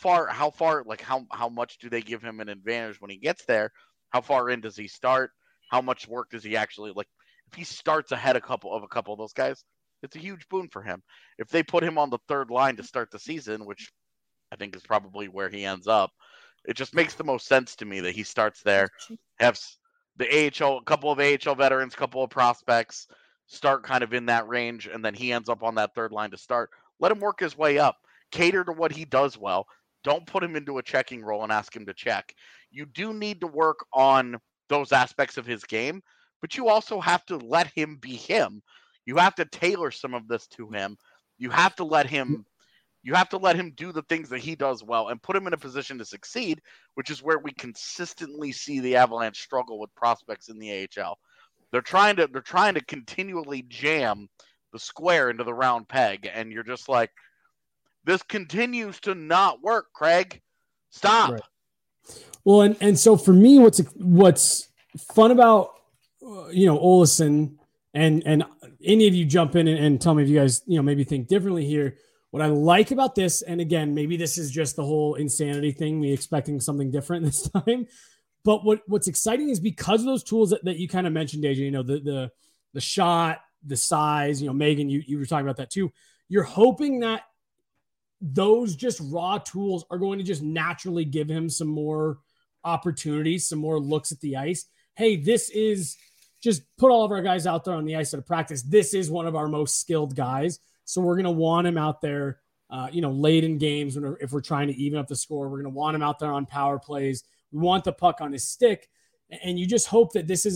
much do they give him an advantage when he gets there? How far in does he start? How much work does he actually like? If he starts ahead a couple of those guys, it's a huge boon for him. If they put him on the third line to start the season, which I think is probably where he ends up, it just makes the most sense to me that he starts there, have the AHL, a couple of AHL veterans, couple of prospects start kind of in that range, and then he ends up on that third line to start. Let him work his way up. Cater to what he does well. Don't put him into a checking role and ask him to check. You do need to work on those aspects of his game, but you also have to let him be him. You have to tailor some of this to him. You have to let him do the things that he does well and put him in a position to succeed, which is where we consistently see the Avalanche struggle with prospects in the AHL. They're trying to continually jam the square into the round peg, and you're just like, this continues to not work, Craig. Stop. Right. Well, and so for me, what's fun about Olsen, and any of you jump in and tell me if you guys maybe think differently here. What I like about this, and again, maybe this is just the whole insanity thing, me expecting something different this time. But what's exciting is because of those tools that you kind of mentioned, AJ, the shot, the size, Megan, you were talking about that too. You're hoping that those just raw tools are going to just naturally give him some more opportunities, some more looks at the ice. Hey, this is just put all of our guys out there on the ice at a practice. This is one of our most skilled guys. So we're going to want him out there, late in games if we're trying to even up the score. We're going to want him out there on power plays. We want the puck on his stick. And you just hope that this is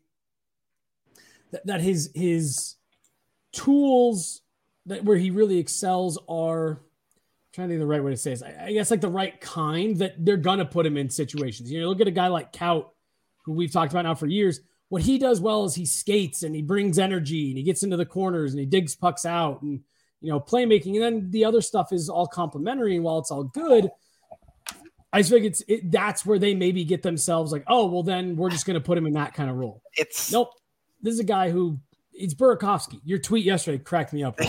that his tools where he really excels are, trying to think of the right way to say this, I guess like the right kind, that they're going to put him in situations. Look at a guy like Kaut, who we've talked about now for years. What he does well is he skates and he brings energy and he gets into the corners and he digs pucks out and, playmaking. And then the other stuff is all complimentary. And while it's all good, I just think that's where they maybe get themselves like, oh, well, then we're just going to put him in that kind of role. Nope. This is a guy who it's Burakovsky. Your tweet yesterday cracked me up.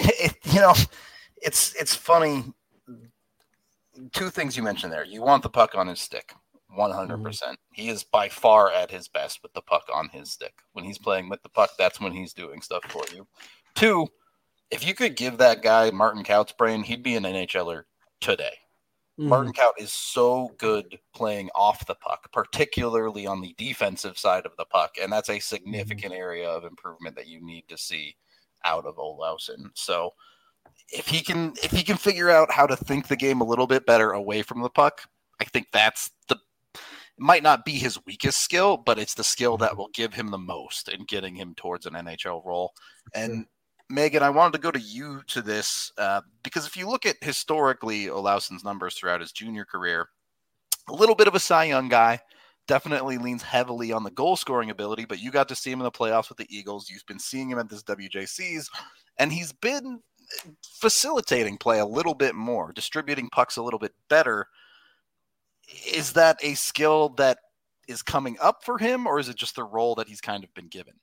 It's funny. Two things you mentioned there. You want the puck on his stick, 100%. He is by far at his best with the puck on his stick. When he's playing with the puck, that's when he's doing stuff for you. Two, if you could give that guy Martin Kaut's brain, he'd be an NHLer today. Martin Kaut is so good playing off the puck, particularly on the defensive side of the puck, and that's a significant area of improvement that you need to see out of Olsen. So if he can figure out how to think the game a little bit better away from the puck, I think it might not be his weakest skill, but it's the skill that will give him the most in getting him towards an NHL role. And Megan, I wanted to go to you to this because if you look at historically Olausen's numbers throughout his junior career, a little bit of a Cy Young guy, definitely leans heavily on the goal scoring ability, but you got to see him in the playoffs with the Eagles. You've been seeing him at this WJCs, and he's been facilitating play a little bit more, distributing pucks a little bit better. Is that a skill that is coming up for him, or is it just the role that he's kind of been given?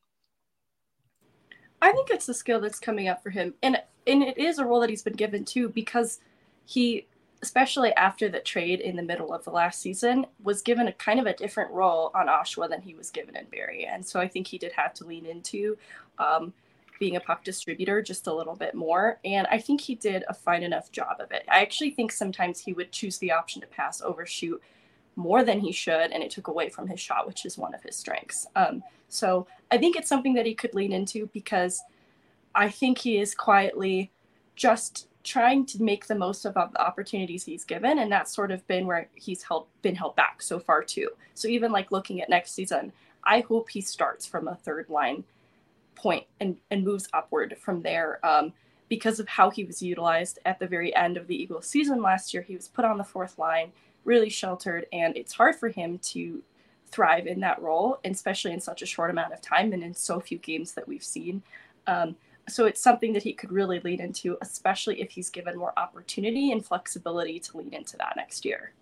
I think it's the skill that's coming up for him. And it is a role that he's been given too, because he, especially after the trade in the middle of the last season, was given a kind of a different role on Oshawa than he was given in Barrie. And so I think he did have to lean into being a puck distributor just a little bit more. And I think he did a fine enough job of it. I actually think sometimes he would choose the option to pass overshoot more than he should, and it took away from his shot, which is one of his strengths. So I think it's something that he could lean into, because I think he is quietly just trying to make the most of the opportunities he's given, and that's sort of been where he's been held back so far too. So even like looking at next season, I hope he starts from a third line point and moves upward from there, because of how he was utilized at the very end of the Eagles season last year. He was put on the fourth line, really sheltered, and it's hard for him to thrive in that role, especially in such a short amount of time and in so few games that we've seen. So it's something that he could really lean into, especially if he's given more opportunity and flexibility to lean into that next year.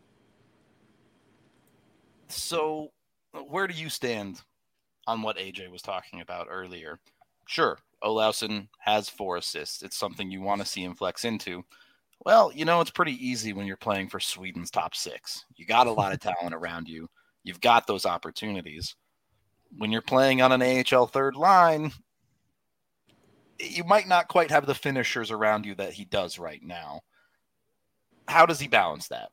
So where do you stand on what AJ was talking about earlier? Sure, Olausson has 4 assists. It's something you want to see him flex into. Well, it's pretty easy when you're playing for Sweden's top 6. You got a lot of talent around you. You've got those opportunities. When you're playing on an AHL third line, you might not quite have the finishers around you that he does right now. How does he balance that?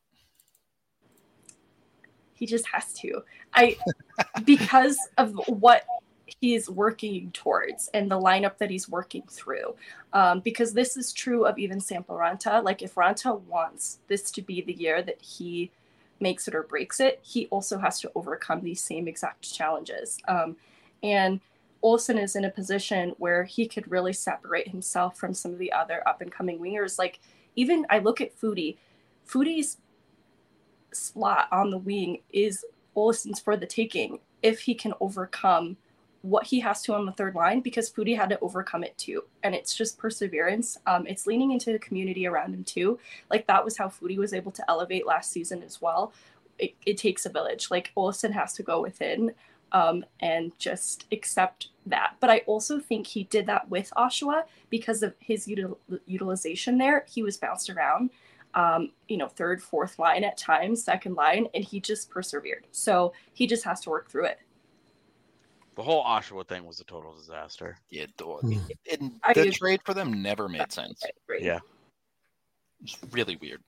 He just has to. Because of what he's working towards and the lineup that he's working through. Because this is true of even Sampo Ranta. Like, if Ranta wants this to be the year that he makes it or breaks it, he also has to overcome these same exact challenges. And Olsen is in a position where he could really separate himself from some of the other up-and-coming wingers. Like, even I look at Foudy. Foudy's slot on the wing is Olsen's for the taking if he can overcome what he has to on the third line, because Foudy had to overcome it too. And it's just perseverance. It's leaning into the community around him too. Like, that was how Foudy was able to elevate last season as well. It takes a village. Like, Olsen has to go within and just accept that. But I also think he did that with Oshawa because of his utilization there. He was bounced around, third, fourth line at times, second line, and he just persevered. So he just has to work through it. The whole Oshawa thing was a total disaster. Yeah, the trade for them never made sense. Yeah. It's really weird.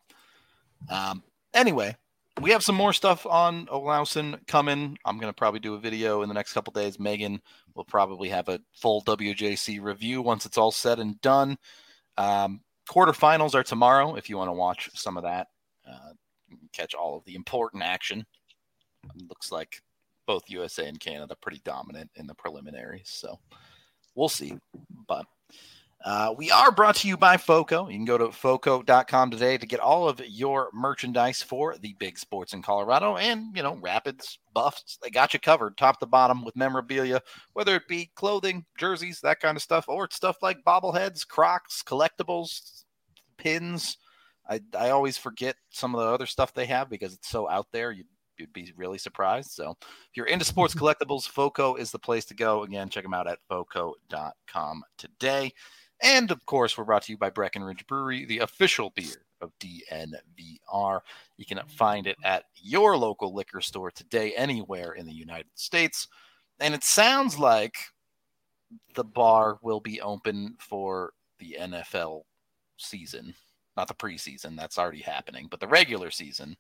Anyway, we have some more stuff on Olausson coming. I'm going to probably do a video in the next couple days. Megan will probably have a full WJC review once it's all said and done. Quarterfinals are tomorrow if you want to watch some of that. Catch all of the important action. It looks like both USA and Canada pretty dominant in the preliminaries, so we'll see. But we are brought to you by FOCO. You can go to FOCO.com today to get all of your merchandise for the big sports in Colorado and, Rapids, Buffs. They got you covered top to bottom with memorabilia, whether it be clothing, jerseys, that kind of stuff, or it's stuff like bobbleheads, Crocs, collectibles, pins. I always forget some of the other stuff they have because it's so out there. You'd be really surprised. So if you're into sports collectibles, FOCO is the place to go. Again, check them out at FOCO.com today. And, of course, we're brought to you by Breckenridge Brewery, the official beer of DNVR. You can find it at your local liquor store today, anywhere in the United States. And it sounds like the bar will be open for the NFL season. Not the preseason. That's already happening. But the regular season.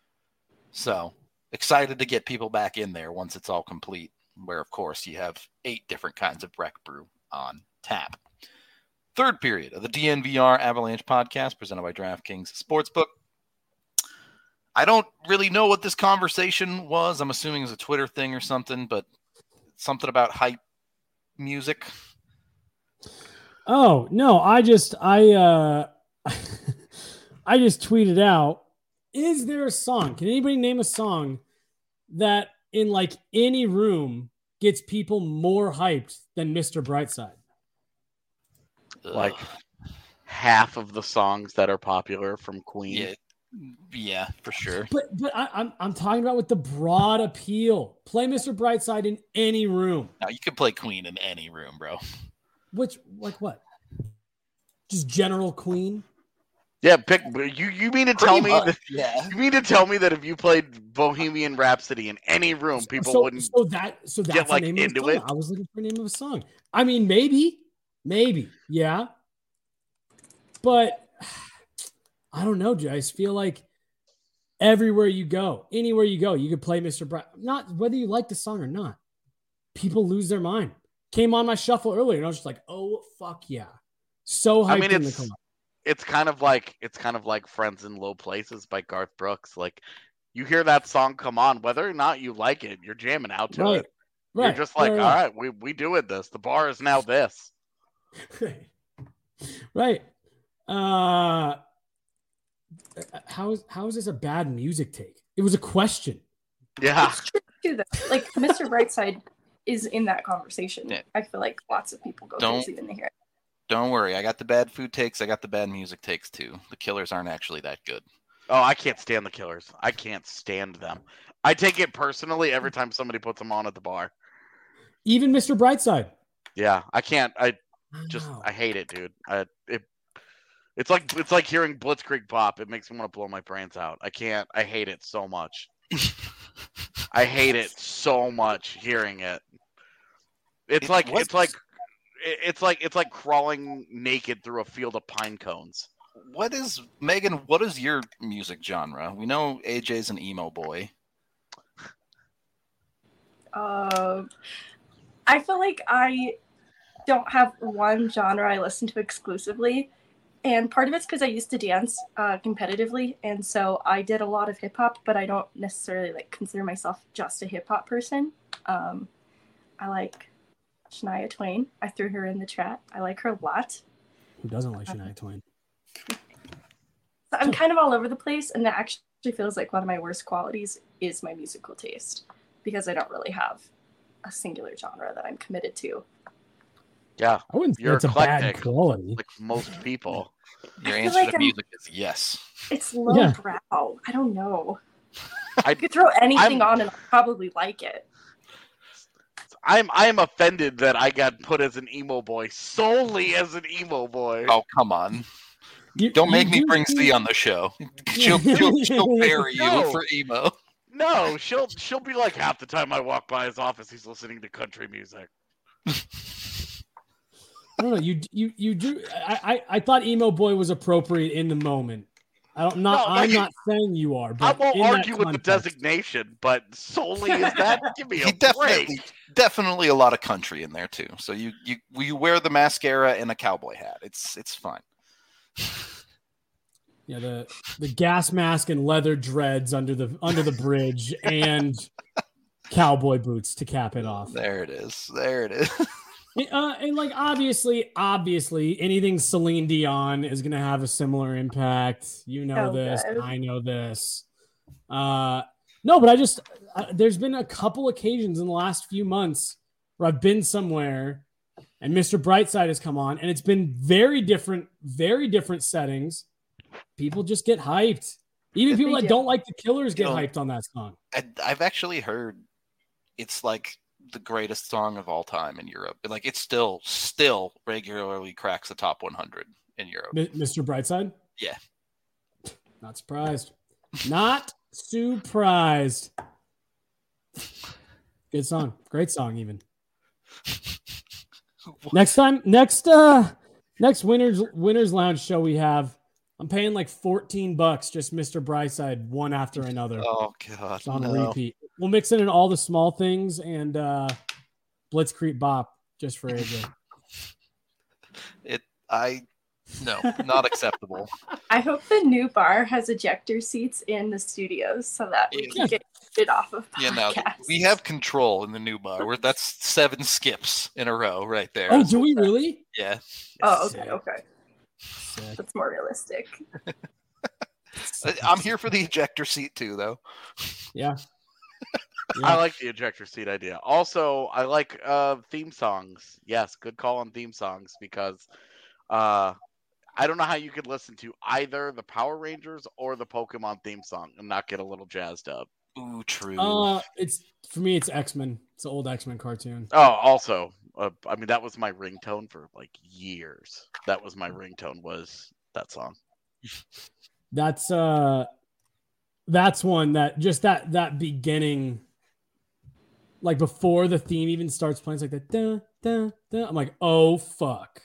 So excited to get people back in there once it's all complete, where, of course, you have 8 different kinds of Breck Brew on tap. Third period of the DNVR Avalanche podcast presented by DraftKings Sportsbook. I don't really know what this conversation was. I'm assuming it's a Twitter thing or something, but something about hype music. Oh, no, I just tweeted out, is there a song? Can anybody name a song that in like any room gets people more hyped than Mr. Brightside? Like half of the songs that are popular from Queen. Yeah, for sure. But I'm talking about with the broad appeal. Play Mr. Brightside in any room. Now you can play Queen in any room, bro. Which, like what? Just general Queen? Yeah, pick. You mean to tell me that? Yeah. You mean to tell me that if you played Bohemian Rhapsody in any room, people wouldn't? So that's get like the name into of the song. it. I was looking for the name of a song. I mean, maybe, yeah. But I don't know, Jay. I just feel like everywhere you go, anywhere you go, you could play Mr. Bright. Not whether you like the song or not. People lose their mind. Came on my shuffle earlier, and I was just like, "Oh fuck yeah!" So hyped in the car. It's kind of like Friends in Low Places by Garth Brooks. Like, you hear that song come on, whether or not you like it, you're jamming out to it. Right. You're just like, all right, we doing this. The bar is now this. Right. How is this a bad music take? It was a question. Yeah. too, though. Like Mr. Brightside is in that conversation. Yeah. I feel like lots of people go crazy when they hear it. Don't worry, I got the bad food takes. I got the bad music takes too. The Killers aren't actually that good. Oh, I can't stand the Killers. I can't stand them. I take it personally every time somebody puts them on at the bar. Even Mr. Brightside. Yeah, I can't. I hate it, dude. It's like hearing Blitzkrieg Bop. It makes me want to blow my brains out. I can't. I hate it so much. I hate it so much hearing it. It's like crawling naked through a field of pine cones. Megan, what is your music genre? We know AJ's an emo boy. I feel like I don't have one genre I listen to exclusively. And part of it's because I used to dance competitively. And so I did a lot of hip hop, but I don't necessarily consider myself just a hip hop person. I like Shania Twain. I threw her in the chat. I like her a lot. Who doesn't like Shania Twain? So I'm kind of all over the place. And that actually feels like one of my worst qualities is my musical taste, because I don't really have a singular genre that I'm committed to. Yeah, I wouldn't say you're it's a bad eclectic, quality. like most people. Your answer to music is yes. It's lowbrow. I don't know. I could throw anything on and I'll probably like it. I'm offended that I got put as an emo boy solely as an emo boy. Oh, come on. Don't make me bring Z on the show. She'll bury you for emo. No, she'll be like, half the time I walk by his office, he's listening to country music. I don't know. You do. I thought emo boy was appropriate in the moment. I'm not saying you are. But I won't argue with the designation, but solely is that? Give me a break. Definitely a lot of country in there too. So you wear the mascara and a cowboy hat. It's fine. Yeah, the gas mask and leather dreads under the bridge and cowboy boots to cap it off. There it is. And obviously, anything Celine Dion is going to have a similar impact. You know this. Good. I know this. No, but there's been a couple occasions in the last few months where I've been somewhere and Mr. Brightside has come on, and it's been very different settings. People just get hyped. Even people that don't like the Killers get hyped on that song. I've actually heard it's like the greatest song of all time in Europe. Like it still regularly cracks the top 100 in Europe. Mr. Brightside? Yeah. Not surprised. Not surprised. Good song. Great song even. Next Winners Lounge show we have, I'm paying like $14 just Mr. Brightside one after another. Oh god. It's on repeat. We'll mix in all the small things and Blitzkrieg Bop just for AJ. No, not acceptable. I hope the new bar has ejector seats in the studios so that we can get it off of podcasts. Yeah, no, we have control in the new bar. That's 7 skips in a row right there. Oh, do we really? Yeah. Oh, okay. Sick. That's more realistic. I'm here for the ejector seat too, though. Yeah. I like the ejector seat idea. Also, I like theme songs. Yes, good call on theme songs because I don't know how you could listen to either the Power Rangers or the Pokemon theme song and not get a little jazzed up. Ooh, true. For me, it's X-Men. It's an old X-Men cartoon. Oh, also, I mean, that was my ringtone for like years. That was my ringtone, was that song. That's one that just that beginning, like before the theme even starts playing, it's like that. Da, da, da. I'm like, oh fuck.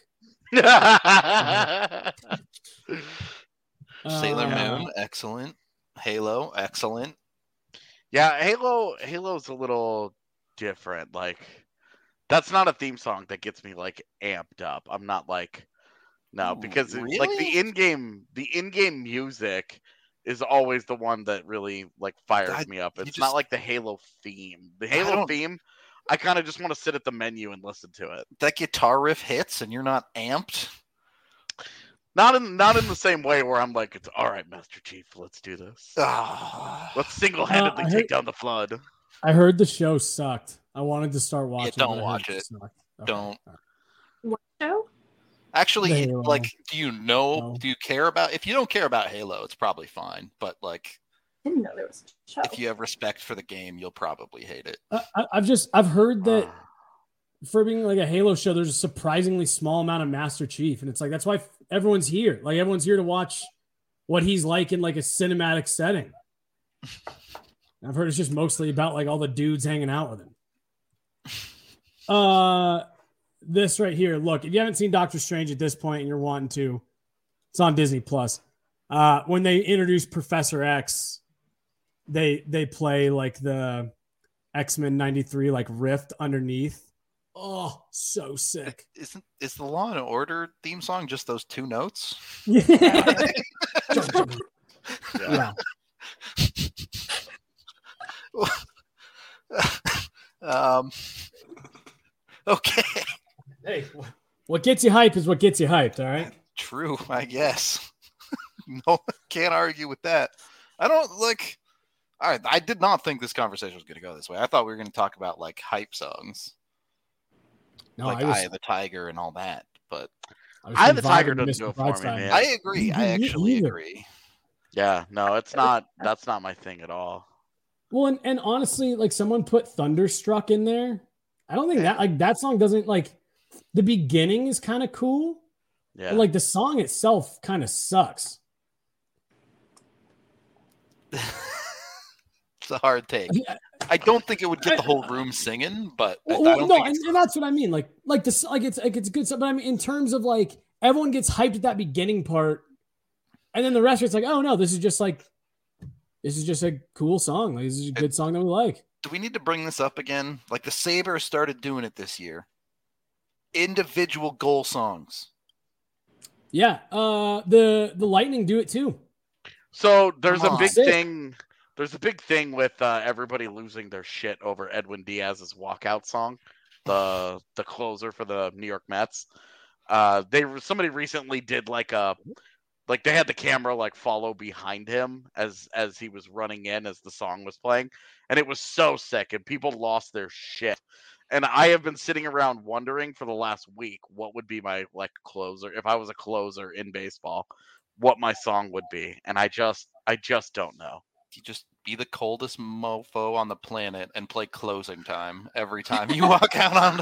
Sailor Moon, excellent. Halo, excellent. Yeah, Halo's a little different. Like, that's not a theme song that gets me like amped up. I'm not like, no, because really? Like the in-game music is always the one that really like fires me up. It's not like the Halo theme. The Halo theme, I kind of just want to sit at the menu and listen to it. That guitar riff hits and you're not amped? Not in the same way where I'm like, it's all right, Master Chief, let's do this. Oh. Let's single-handedly take down the Flood. I heard the show sucked. I wanted to start watching. Don't watch it. Okay. Don't. What show? Actually, Halo. like, do you know? No. Do you care about? If you don't care about Halo, it's probably fine. But like, I didn't know there was a show. if you have respect for the game, you'll probably hate it. I've heard that for being like a Halo show, there's a surprisingly small amount of Master Chief, and it's like that's why everyone's here. Like everyone's here to watch what he's like in like a cinematic setting. I've heard it's just mostly about like all the dudes hanging out with him. This right here. Look, if you haven't seen Doctor Strange at this point and you're wanting to, it's on Disney Plus. When they introduce Professor X, they play like the X-Men 93 like rift underneath. Oh, so sick. Is the Law and Order theme song just those two notes? Yeah. Okay. Hey, what gets you hyped is what gets you hyped, all right? True, I guess. No, can't argue with that. I don't like. All right, I did not think this conversation was going to go this way. I thought we were going to talk about like hype songs, like Eye of the Tiger and all that. But Eye of the Tiger doesn't do it for me, man. I agree. I actually agree. Yeah, no, it's not. That's not my thing at all. Well, and honestly, like someone put Thunderstruck in there. I don't think that song doesn't like. The beginning is kind of cool. Yeah. But like the song itself kind of sucks. It's a hard take. I don't think it would get the whole room singing, but and that's what I mean. Like this, like it's good stuff. But I mean, in terms of like everyone gets hyped at that beginning part, and then the rest of it's like, oh no, this is just a cool song. Like, this is a good song that we like. Do we need to bring this up again? Like the Sabres started doing it this year. Individual goal songs. Yeah, the Lightning do it too. So there's a big thing. There's a big thing with everybody losing their shit over Edwin Diaz's walkout song, the closer for the New York Mets. Somebody recently did like they had the camera like follow behind him as he was running in as the song was playing, and it was so sick, and people lost their shit. And I have been sitting around wondering for the last week what would be my like closer if I was a closer in baseball, what my song would be, and I just don't know. You just be the coldest mofo on the planet and play Closing Time every time you walk out on.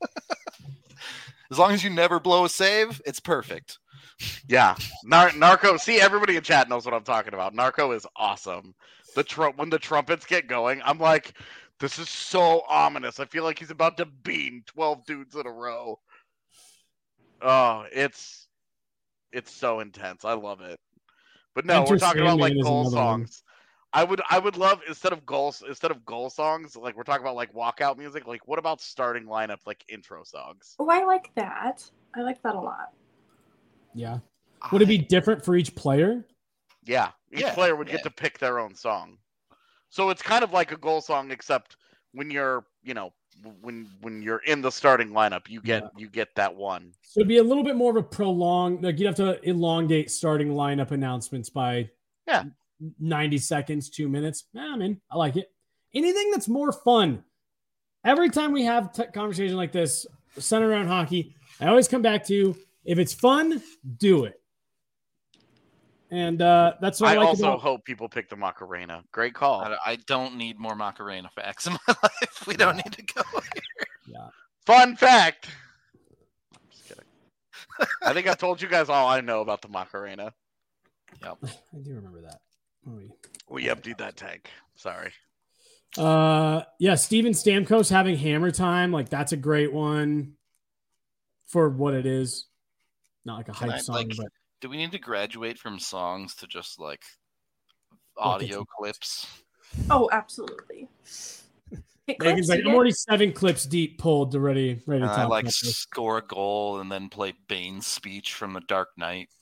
As long as you never blow a save, it's perfect. Yeah, Narco. See, everybody in chat knows what I'm talking about. Narco is awesome. When the trumpets get going, I'm like, this is so ominous. I feel like he's about to beam 12 dudes in a row. Oh, it's so intense. I love it. But no, we're talking about like goal songs. I would love instead of goal songs, like we're talking about like walkout music, like what about starting lineup like intro songs? Oh, I like that. I like that a lot. Yeah. Would it be different for each player? Yeah. Each player would get to pick their own song. So it's kind of like a goal song, except when you're, when you're in the starting lineup, you get that one. So it'd be a little bit more of a prolonged, like you'd have to elongate starting lineup announcements by 90 seconds, 2 minutes. I mean, I like it. Anything that's more fun. Every time we have conversation like this, centered around hockey, I always come back to, if it's fun, do it. And that's what I like also hope people pick the Macarena. Great call. I don't need more Macarena facts in my life. We don't need to go here. Yeah. Fun fact. I'm just kidding. I think I've told you guys all I know about the Macarena. Yep. I do remember that. We emptied that tank. Sorry. Steven Stamkos having Hammer Time. Like, that's a great one for what it is. Not like a hype song, but. Do we need to graduate from songs to just like audio clips? Oh, absolutely. Megan's like, I'm already 7 clips deep, pulled to ready to talk. I like score a goal and then play Bane's speech from The Dark Knight.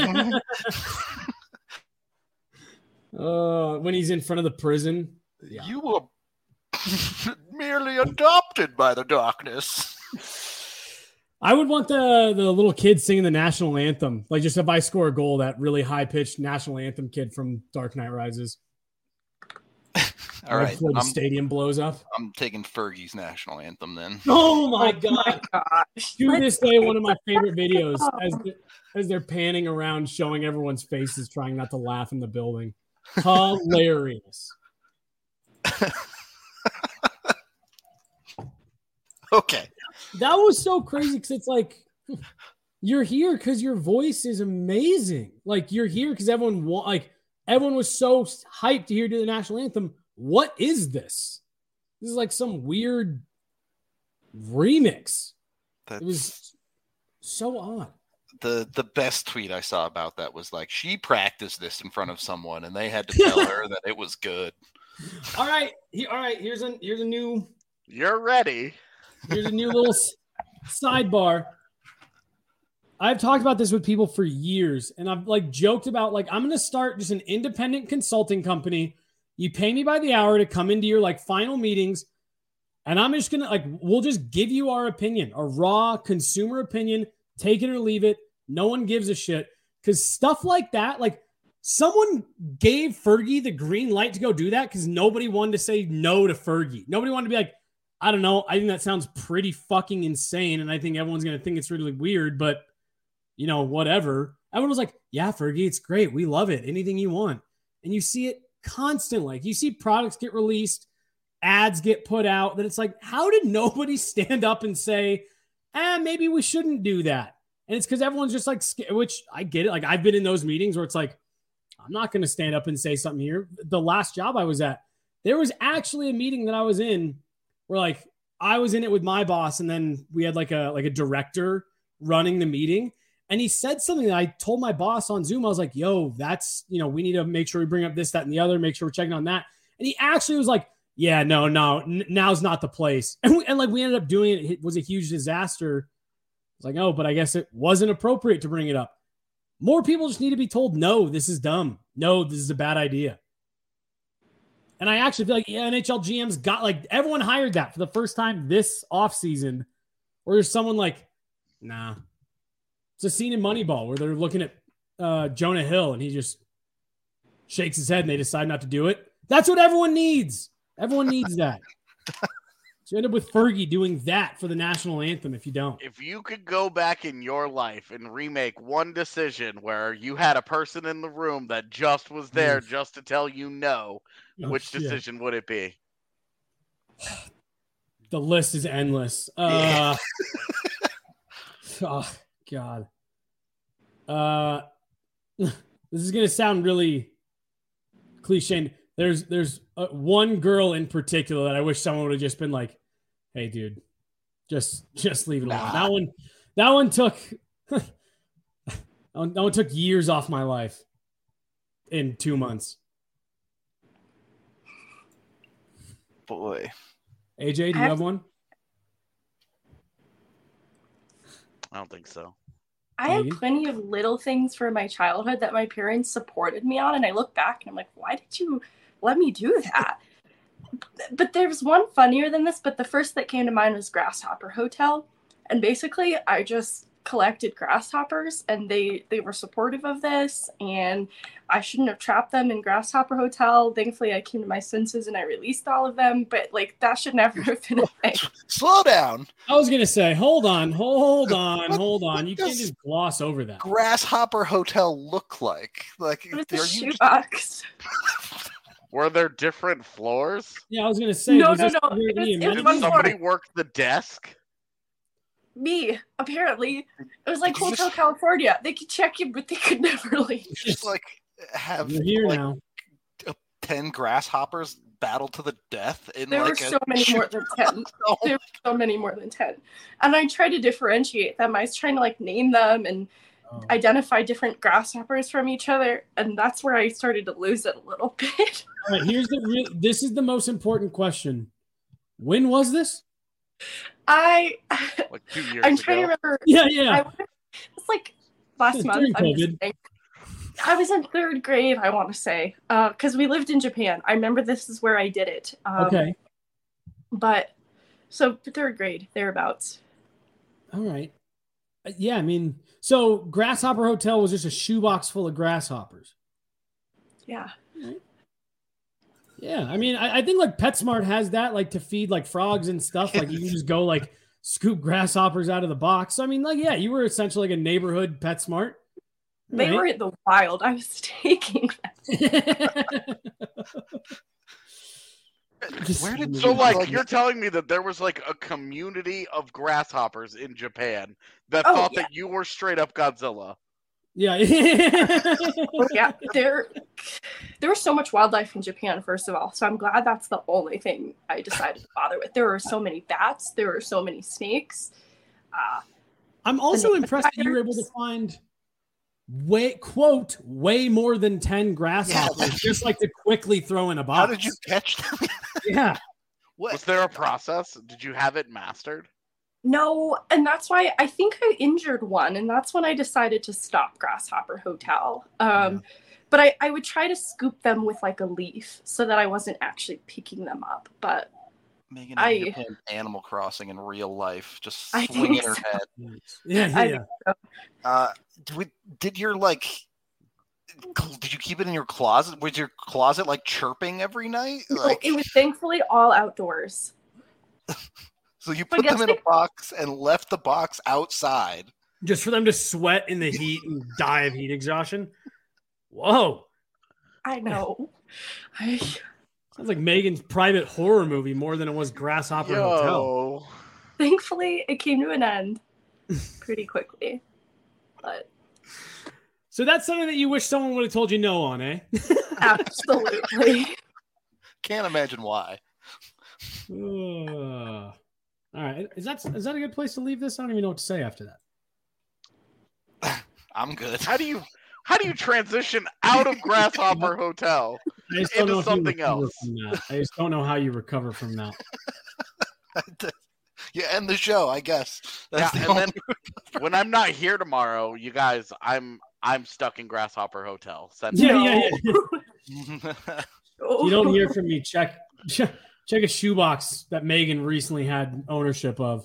When he's in front of the prison. Yeah. You were merely adopted by the darkness. I would want the little kid singing the national anthem. Like, just if I score a goal, that really high-pitched national anthem kid from Dark Knight Rises. All right. Before the stadium blows up. I'm taking Fergie's national anthem then. Oh my God. My gosh. To this day, one of my favorite videos as they're panning around showing everyone's faces trying not to laugh in the building. Hilarious. Okay. That was so crazy because it's like you're here because your voice is amazing. Like you're here because everyone was so hyped to hear do the national anthem. What is this? This is like some weird remix. It was so odd. The best tweet I saw about that was like she practiced this in front of someone and they had to tell her that it was good. All right. Here's a new. You're ready. Here's a new little sidebar. I've talked about this with people for years, and I've like joked about like I'm going to start just an independent consulting company. You pay me by the hour to come into your like final meetings, and I'm just going to like we'll just give you our opinion, a raw consumer opinion, take it or leave it. No one gives a shit because stuff like that, like someone gave Fergie the green light to go do that because nobody wanted to say no to Fergie. Nobody wanted to be like, I don't know. I think that sounds pretty fucking insane. And I think everyone's going to think it's really weird, but you know, whatever. Everyone was like, yeah, Fergie, it's great. We love it. Anything you want. And you see it constantly. Like you see products get released, ads get put out that it's like, how did nobody stand up and say, maybe we shouldn't do that? And it's because everyone's just like, which I get it. Like I've been in those meetings where it's like, I'm not going to stand up and say something here. The last job I was at, there was actually a meeting that I was in where like I was in it with my boss, and then we had like a director running the meeting, and he said something that I told my boss on Zoom. I was like, "Yo, that's we need to make sure we bring up this, that, and the other. Make sure we're checking on that." And he actually was like, "Yeah, no, now's not the place." And we ended up doing it. It was a huge disaster. I was like, "Oh, but I guess it wasn't appropriate to bring it up." More people just need to be told, "No, this is dumb. No, this is a bad idea." And I actually feel like NHL GMs got like everyone hired that for the first time this offseason, or there's someone like, nah. It's a scene in Moneyball where they're looking at Jonah Hill and he just shakes his head and they decide not to do it. That's what everyone needs. Everyone needs that. So you end up with Fergie doing that for the national anthem if you don't. If you could go back in your life and remake one decision where you had a person in the room that just was there just to tell you no, which decision would it be? The list is endless. Oh, God. This is going to sound really cliche. There's one girl in particular that I wish someone would have just been like, "Hey, dude, just leave it alone." That one took that one took years off my life in 2 months. Boy. AJ, do you have one? I don't think so. I have plenty of little things from my childhood that my parents supported me on, and I look back and I'm like, why did you let me do that? But there's one funnier than this, but the first that came to mind was Grasshopper Hotel. And basically, I just collected grasshoppers, and they were supportive of this, and I shouldn't have trapped them in Grasshopper Hotel. Thankfully, I came to my senses and I released all of them, but like that should never have been a thing. Slow down. I was gonna say, hold on. You can't just gloss over that. Grasshopper Hotel look like it was a shoebox. Were there different floors? Yeah, I was gonna say. No. Did somebody work the desk? Me, apparently. It was like Hotel California. They could check you, but they could never leave. Just like have You're here now. 10 grasshoppers battle to the death in there like were so many more than 10. There were so many more than 10. And I tried to differentiate them. I was trying to like name them and identify different grasshoppers from each other, and that's where I started to lose it a little bit. All right, this is the most important question. When was this? Like 2 years I'm ago. trying to remember. Yeah. It's like last month. I was in third grade, I want to say, because we lived in Japan. I remember this is where I did it. Okay. But so third grade, thereabouts. All right. Yeah, I mean, so Grasshopper Hotel was just a shoebox full of grasshoppers. Yeah. Yeah, I mean, I think like PetSmart has that, like to feed like frogs and stuff. Like you can just go like scoop grasshoppers out of the box. So, I mean, like, yeah, you were essentially like a neighborhood PetSmart. They were in the wild. I was taking them. So like you're telling me that there was like a community of grasshoppers in Japan that thought that you were straight up Godzilla. Yeah. Yeah, there was so much wildlife in Japan, first of all. So I'm glad that's the only thing I decided to bother with. There were so many bats. There were so many snakes. I'm also impressed that you were able to find way more than 10 grasshoppers just like to quickly throw in a box. How did you catch them? Yeah. What? Was there a process? Did you have it mastered? No, and that's why I think I injured one, and that's when I decided to stop Grasshopper Hotel. But I would try to scoop them with like a leaf so that I wasn't actually picking them up. But Megan, you're playing Animal Crossing in real life, just swinging her head. Yeah. Did your did you keep it in your closet? Was your closet like chirping every night? No, it was thankfully all outdoors. So you put them in a box and left the box outside. Just for them to sweat in the heat and die of heat exhaustion? Whoa. I know. Sounds like Megan's private horror movie more than it was Grasshopper Hotel. Thankfully, it came to an end pretty quickly. But so that's something that you wish someone would have told you no on, eh? Absolutely. Can't imagine why. All right. Is that a good place to leave this? I don't even know what to say after that. I'm good. How do you transition out of Grasshopper Hotel into something else? I just don't know how you recover from that. You end the show, I guess. That's and then when I'm not here tomorrow, you guys, I'm stuck in Grasshopper Hotel. Yeah. You don't hear from me. Check a shoebox that Megan recently had ownership of.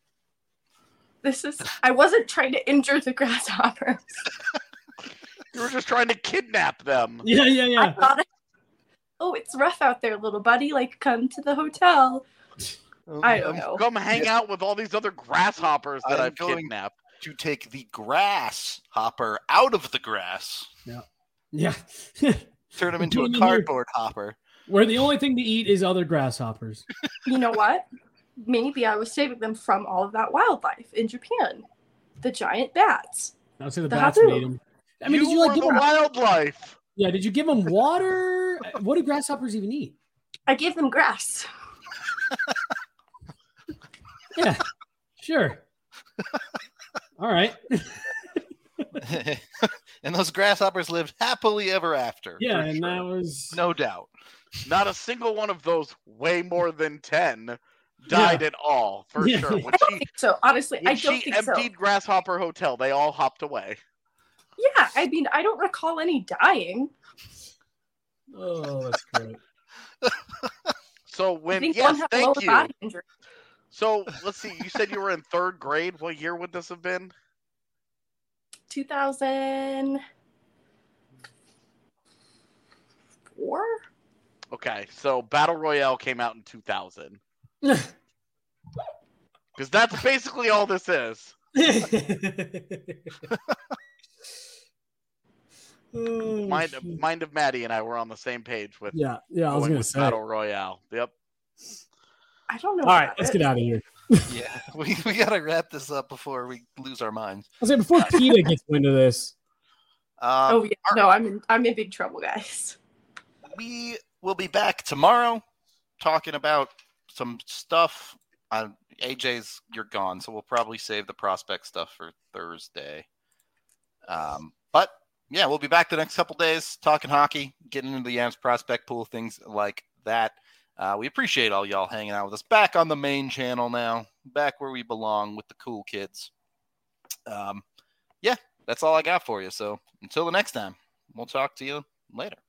I wasn't trying to injure the grasshoppers. You were just trying to kidnap them. Yeah. I thought, it's rough out there, little buddy. Like, come to the hotel. I don't know. Come hang out with all these other grasshoppers that I've kidnapped. To take the grasshopper out of the grass. Yeah. Turn him into a cardboard hopper. Where the only thing to eat is other grasshoppers. You know what? Maybe I was saving them from all of that wildlife in Japan. The giant bats. I would say the bats would eat them. I mean, did you give them wildlife? Yeah, did you give them water? What do grasshoppers even eat? I gave them grass. Yeah, sure. All right. And those grasshoppers lived happily ever after. Yeah, and that was... No doubt. Not a single one of those way more than 10 died at all, for sure. I don't think so. Honestly, I don't think so. When she emptied Grasshopper Hotel, they all hopped away. Yeah, I mean, I don't recall any dying. Oh, that's great. So thank you. So let's see. You said you were in 3rd grade. What year would this have been? 2004. Okay, so Battle Royale came out in 2000. Because that's basically all this is. Mind of Maddie and I were on the same page with I was going to say Battle Royale. Yep. I don't know. All right, let's get out of here. Yeah, we got to wrap this up before we lose our minds. I was saying before PETA gets into this. No, I'm in big trouble, guys. We will be back tomorrow talking about some stuff. AJ's, you're gone, so we'll probably save the prospect stuff for Thursday. But yeah, we'll be back the next couple days talking hockey, getting into the Yams prospect pool, things like that. We appreciate all y'all hanging out with us. Back on the main channel now, back where we belong with the cool kids. Yeah, that's all I got for you. So until the next time, we'll talk to you later.